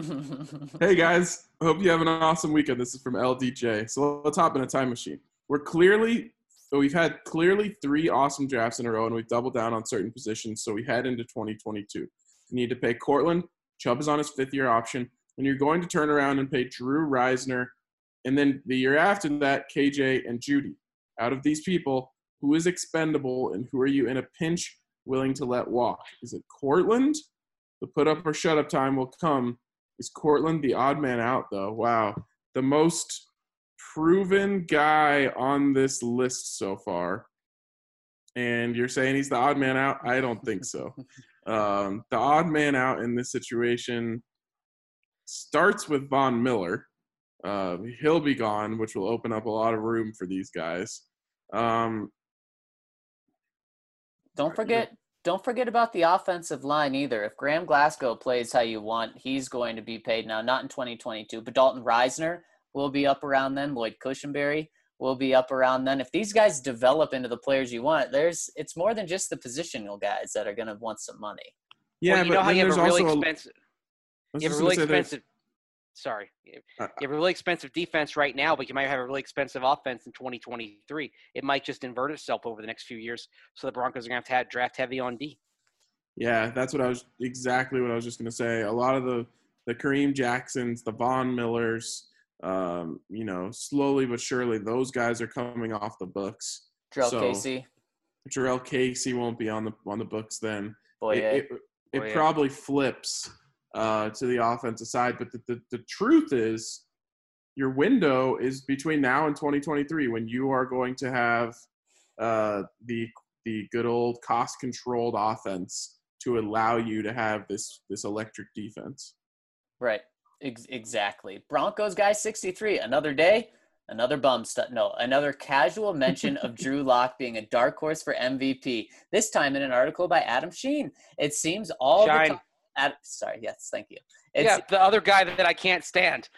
Hey guys, hope you have an awesome weekend. This is from L D J. So let's hop in a time machine. We're clearly, we've had clearly three awesome drafts in a row, and we've doubled down on certain positions. So we head into twenty twenty-two. You need to pay Cortland. Chubb is on his fifth year option, and you're going to turn around and pay Drew Reisner, and then the year after that, K J and Judy. Out of these people, who is expendable, and who are you in a pinch willing to let walk? Is it Cortland? The put up or shut up time will come. Is Cortland the odd man out, though? Wow. The most proven guy on this list so far. And you're saying he's the odd man out? I don't think so. Um, the odd man out in this situation starts with Von Miller. Uh, he'll be gone, which will open up a lot of room for these guys. Um, Don't forget, don't forget about the offensive line either. If Graham Glasgow plays how you want, he's going to be paid now, not in twenty twenty-two, but Dalton Reisner will be up around then. Lloyd Cushenberry will be up around then. If these guys develop into the players you want, there's it's more than just the positional guys that are going to want some money. yeah, well, you but know how then you have there's a really also expensive. I was You have just a gonna really say there's- expensive. Sorry, you Uh, have a really expensive defense right now, but you might have a really expensive offense in twenty twenty-three. It might just invert itself over the next few years. So the Broncos are going to have to have draft heavy on D. Yeah, that's what I was exactly what I was just going to say. A lot of the the Kareem Jacksons, the Von Millers, um, you know, slowly but surely, those guys are coming off the books. Jarrell So- Casey, Jarrell Casey won't be on the on the books then. boy, it it, it Boye. probably flips uh, to the offensive side. But the, the, the truth is, your window is between now and twenty twenty-three when you are going to have uh, the the good old cost controlled offense to allow you to have this this electric defense. right? Ex- exactly. Broncos guy sixty-three. Another day, another bum stuff. No, another casual mention of Drew Lock being a dark horse for M V P. This time in an article by Adam Sheen. It seems all Shine. the time. Ad- Sorry, yes, thank you. It's, Yeah, the other guy that I can't stand.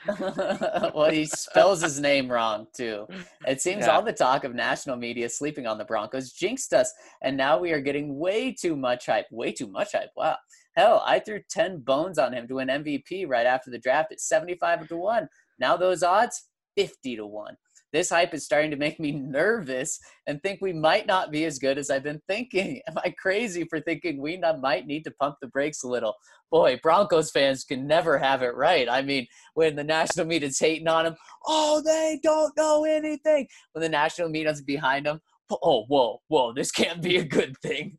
well, he spells his name wrong too. It seems Yeah. all the talk of national media sleeping on the Broncos jinxed us, and now we are getting way too much hype. Way too much hype. Wow. Hell, I threw ten bones on him to win M V P right after the draft at seventy-five to one. Now those odds, fifty to one. This hype is starting to make me nervous and think we might not be as good as I've been thinking. Am I crazy for thinking we not, might need to pump the brakes a little? Boy, Broncos fans can never have it right. I mean, when the national media's hating on them, oh, they don't know anything. When the national media's behind them, oh, whoa, whoa, this can't be a good thing.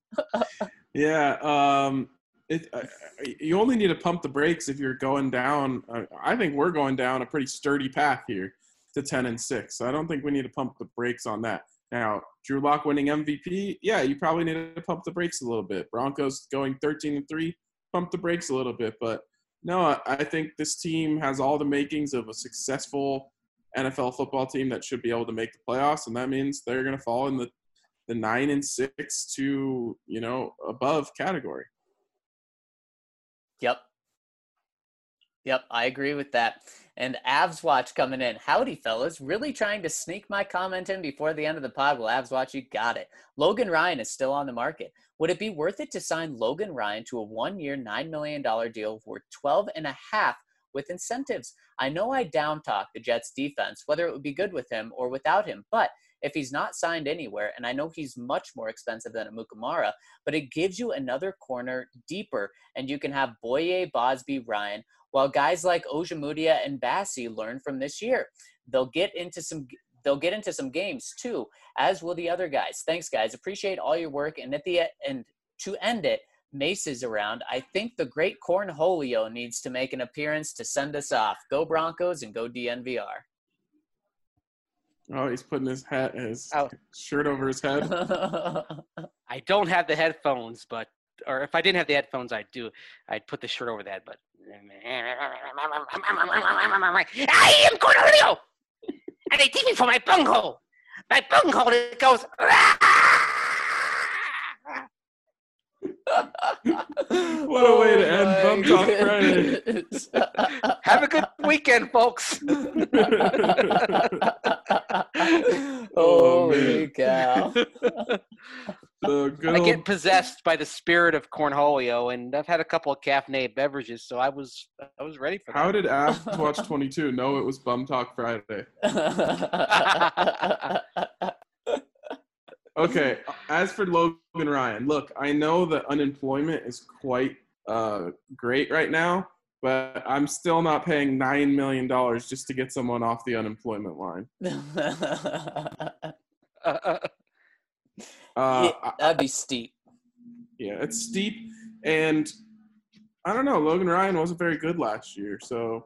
Yeah, um, it, uh, you only need to pump the brakes if you're going down. Uh, I think we're going down a pretty sturdy path here to ten and six. So I don't think we need to pump the brakes on that. Now, Drew Lock winning M V P, yeah, you probably need to pump the brakes a little bit. Broncos going thirteen and three, pump the brakes a little bit. But no, I, I think this team has all the makings of a successful N F L football team that should be able to make the playoffs, and that means they're going to fall in the the nine and six to, you know, above category. Yep. Yep, I agree with that. And Avs Watch coming in. Howdy, fellas. Really trying to sneak my comment in before the end of the pod. Well, Avs Watch, you got it. Logan Ryan is still on the market. Would it be worth it to sign Logan Ryan to a one-year, nine million dollars deal worth twelve and a half with incentives? I know I down-talk the Jets defense, whether it would be good with him or without him, but if he's not signed anywhere, and I know he's much more expensive than a Mukamara, but it gives you another corner deeper, and you can have Boye, Bosby, Ryan, while guys like Ojemudia and Bassi learn from this year. They'll get into some they'll get into some games too, as will the other guys. Thanks, guys. Appreciate all your work. And at the and to end it, Mace is around. I think the great Cornholio needs to make an appearance to send us off. Go Broncos and go D N V R. Oh, he's putting his hat, his Oh. shirt over his head. I don't have the headphones, but or if I didn't have the headphones, I'd do. I'd put the shirt over that. But I am Cornelio, and they take me for my bunghole. My bunghole it goes. What a way to end Bum Talk Friday. Friday. Have a good weekend, folks. Holy man. cow. The good I old, get possessed by the spirit of Cornholio, and I've had a couple of caffeinated beverages, so I was I was ready for that. how did Avs Watch twenty-two know it was Bum Talk Friday? Okay, as for Logan Ryan, look, I know that unemployment is quite uh, great right now, but I'm still not paying nine million dollars just to get someone off the unemployment line. Uh, Yeah, I- that'd be steep. yeah, it's steep, and I don't know. Logan Ryan wasn't very good last year, so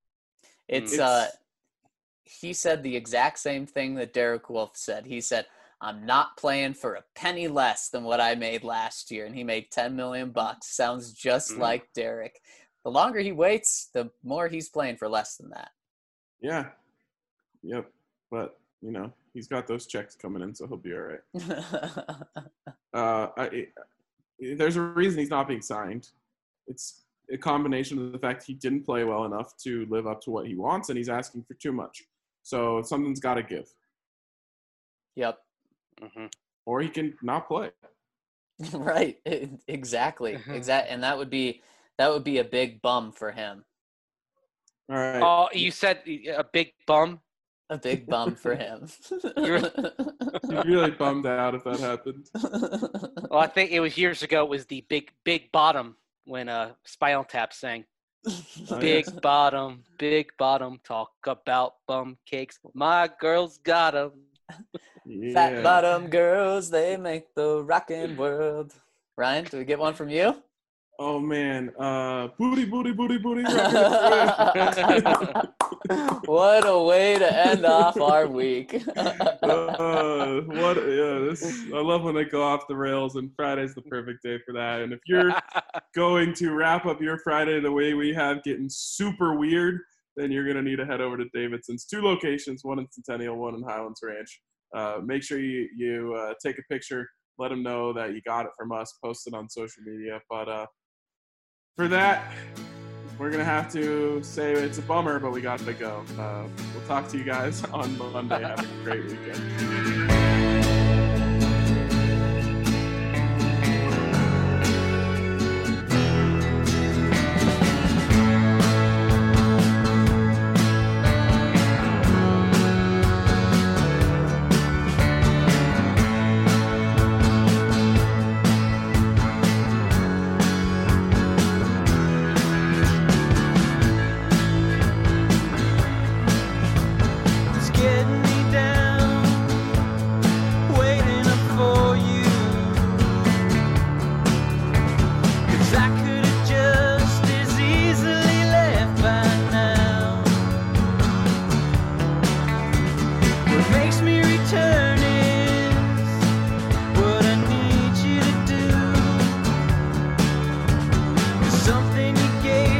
It's, It's- uh he said the exact same thing that Derek Wolf said. He said, I'm not playing for a penny less than what I made last year. And he made ten million bucks. Sounds just Mm. like Derek. The longer he waits, the more he's playing for less than that. Yeah. Yep. But, you know, he's got those checks coming in, so he'll be all right. uh, I, it, there's a reason he's not being signed. It's a combination of the fact he didn't play well enough to live up to what he wants, and he's asking for too much. So something's got to give. Yep. Mm-hmm. Or he can not play. Right. Exactly. Exactly. And that would be that would be a big bum for him. All right. Oh, you said a big bum? A big bum for him. You're- He's really bummed out if that happened. Well, I think it was years ago. It was the big, big bottom when uh, Spinal Tap sang. Oh, Big yes. bottom, big bottom, talk about bum cakes. My girl's got 'em. Yeah. Fat bottom girls, they make the rockin' world. Ryan, do we get one from you? Oh man, uh, booty, booty, booty, booty. What a way to end off our week. uh, what? Yeah, this. I love when they go off the rails, and Friday's the perfect day for that. And if you're going to wrap up your Friday the way we have, getting super weird, then you're gonna need to head over to Davidson's. Two locations, one in Centennial, one in Highlands Ranch. Uh, make sure you you uh, take a picture. Let them know that you got it from us. Post it on social media. But uh, for that, we're going to have to say it's a bummer, but we got to go. Uh, we'll talk to you guys on Monday. Have a great weekend. It's getting me down, waiting up for you. 'Cause I could have just as easily left by now. What makes me return is what I need you to do. 'Cause something you gave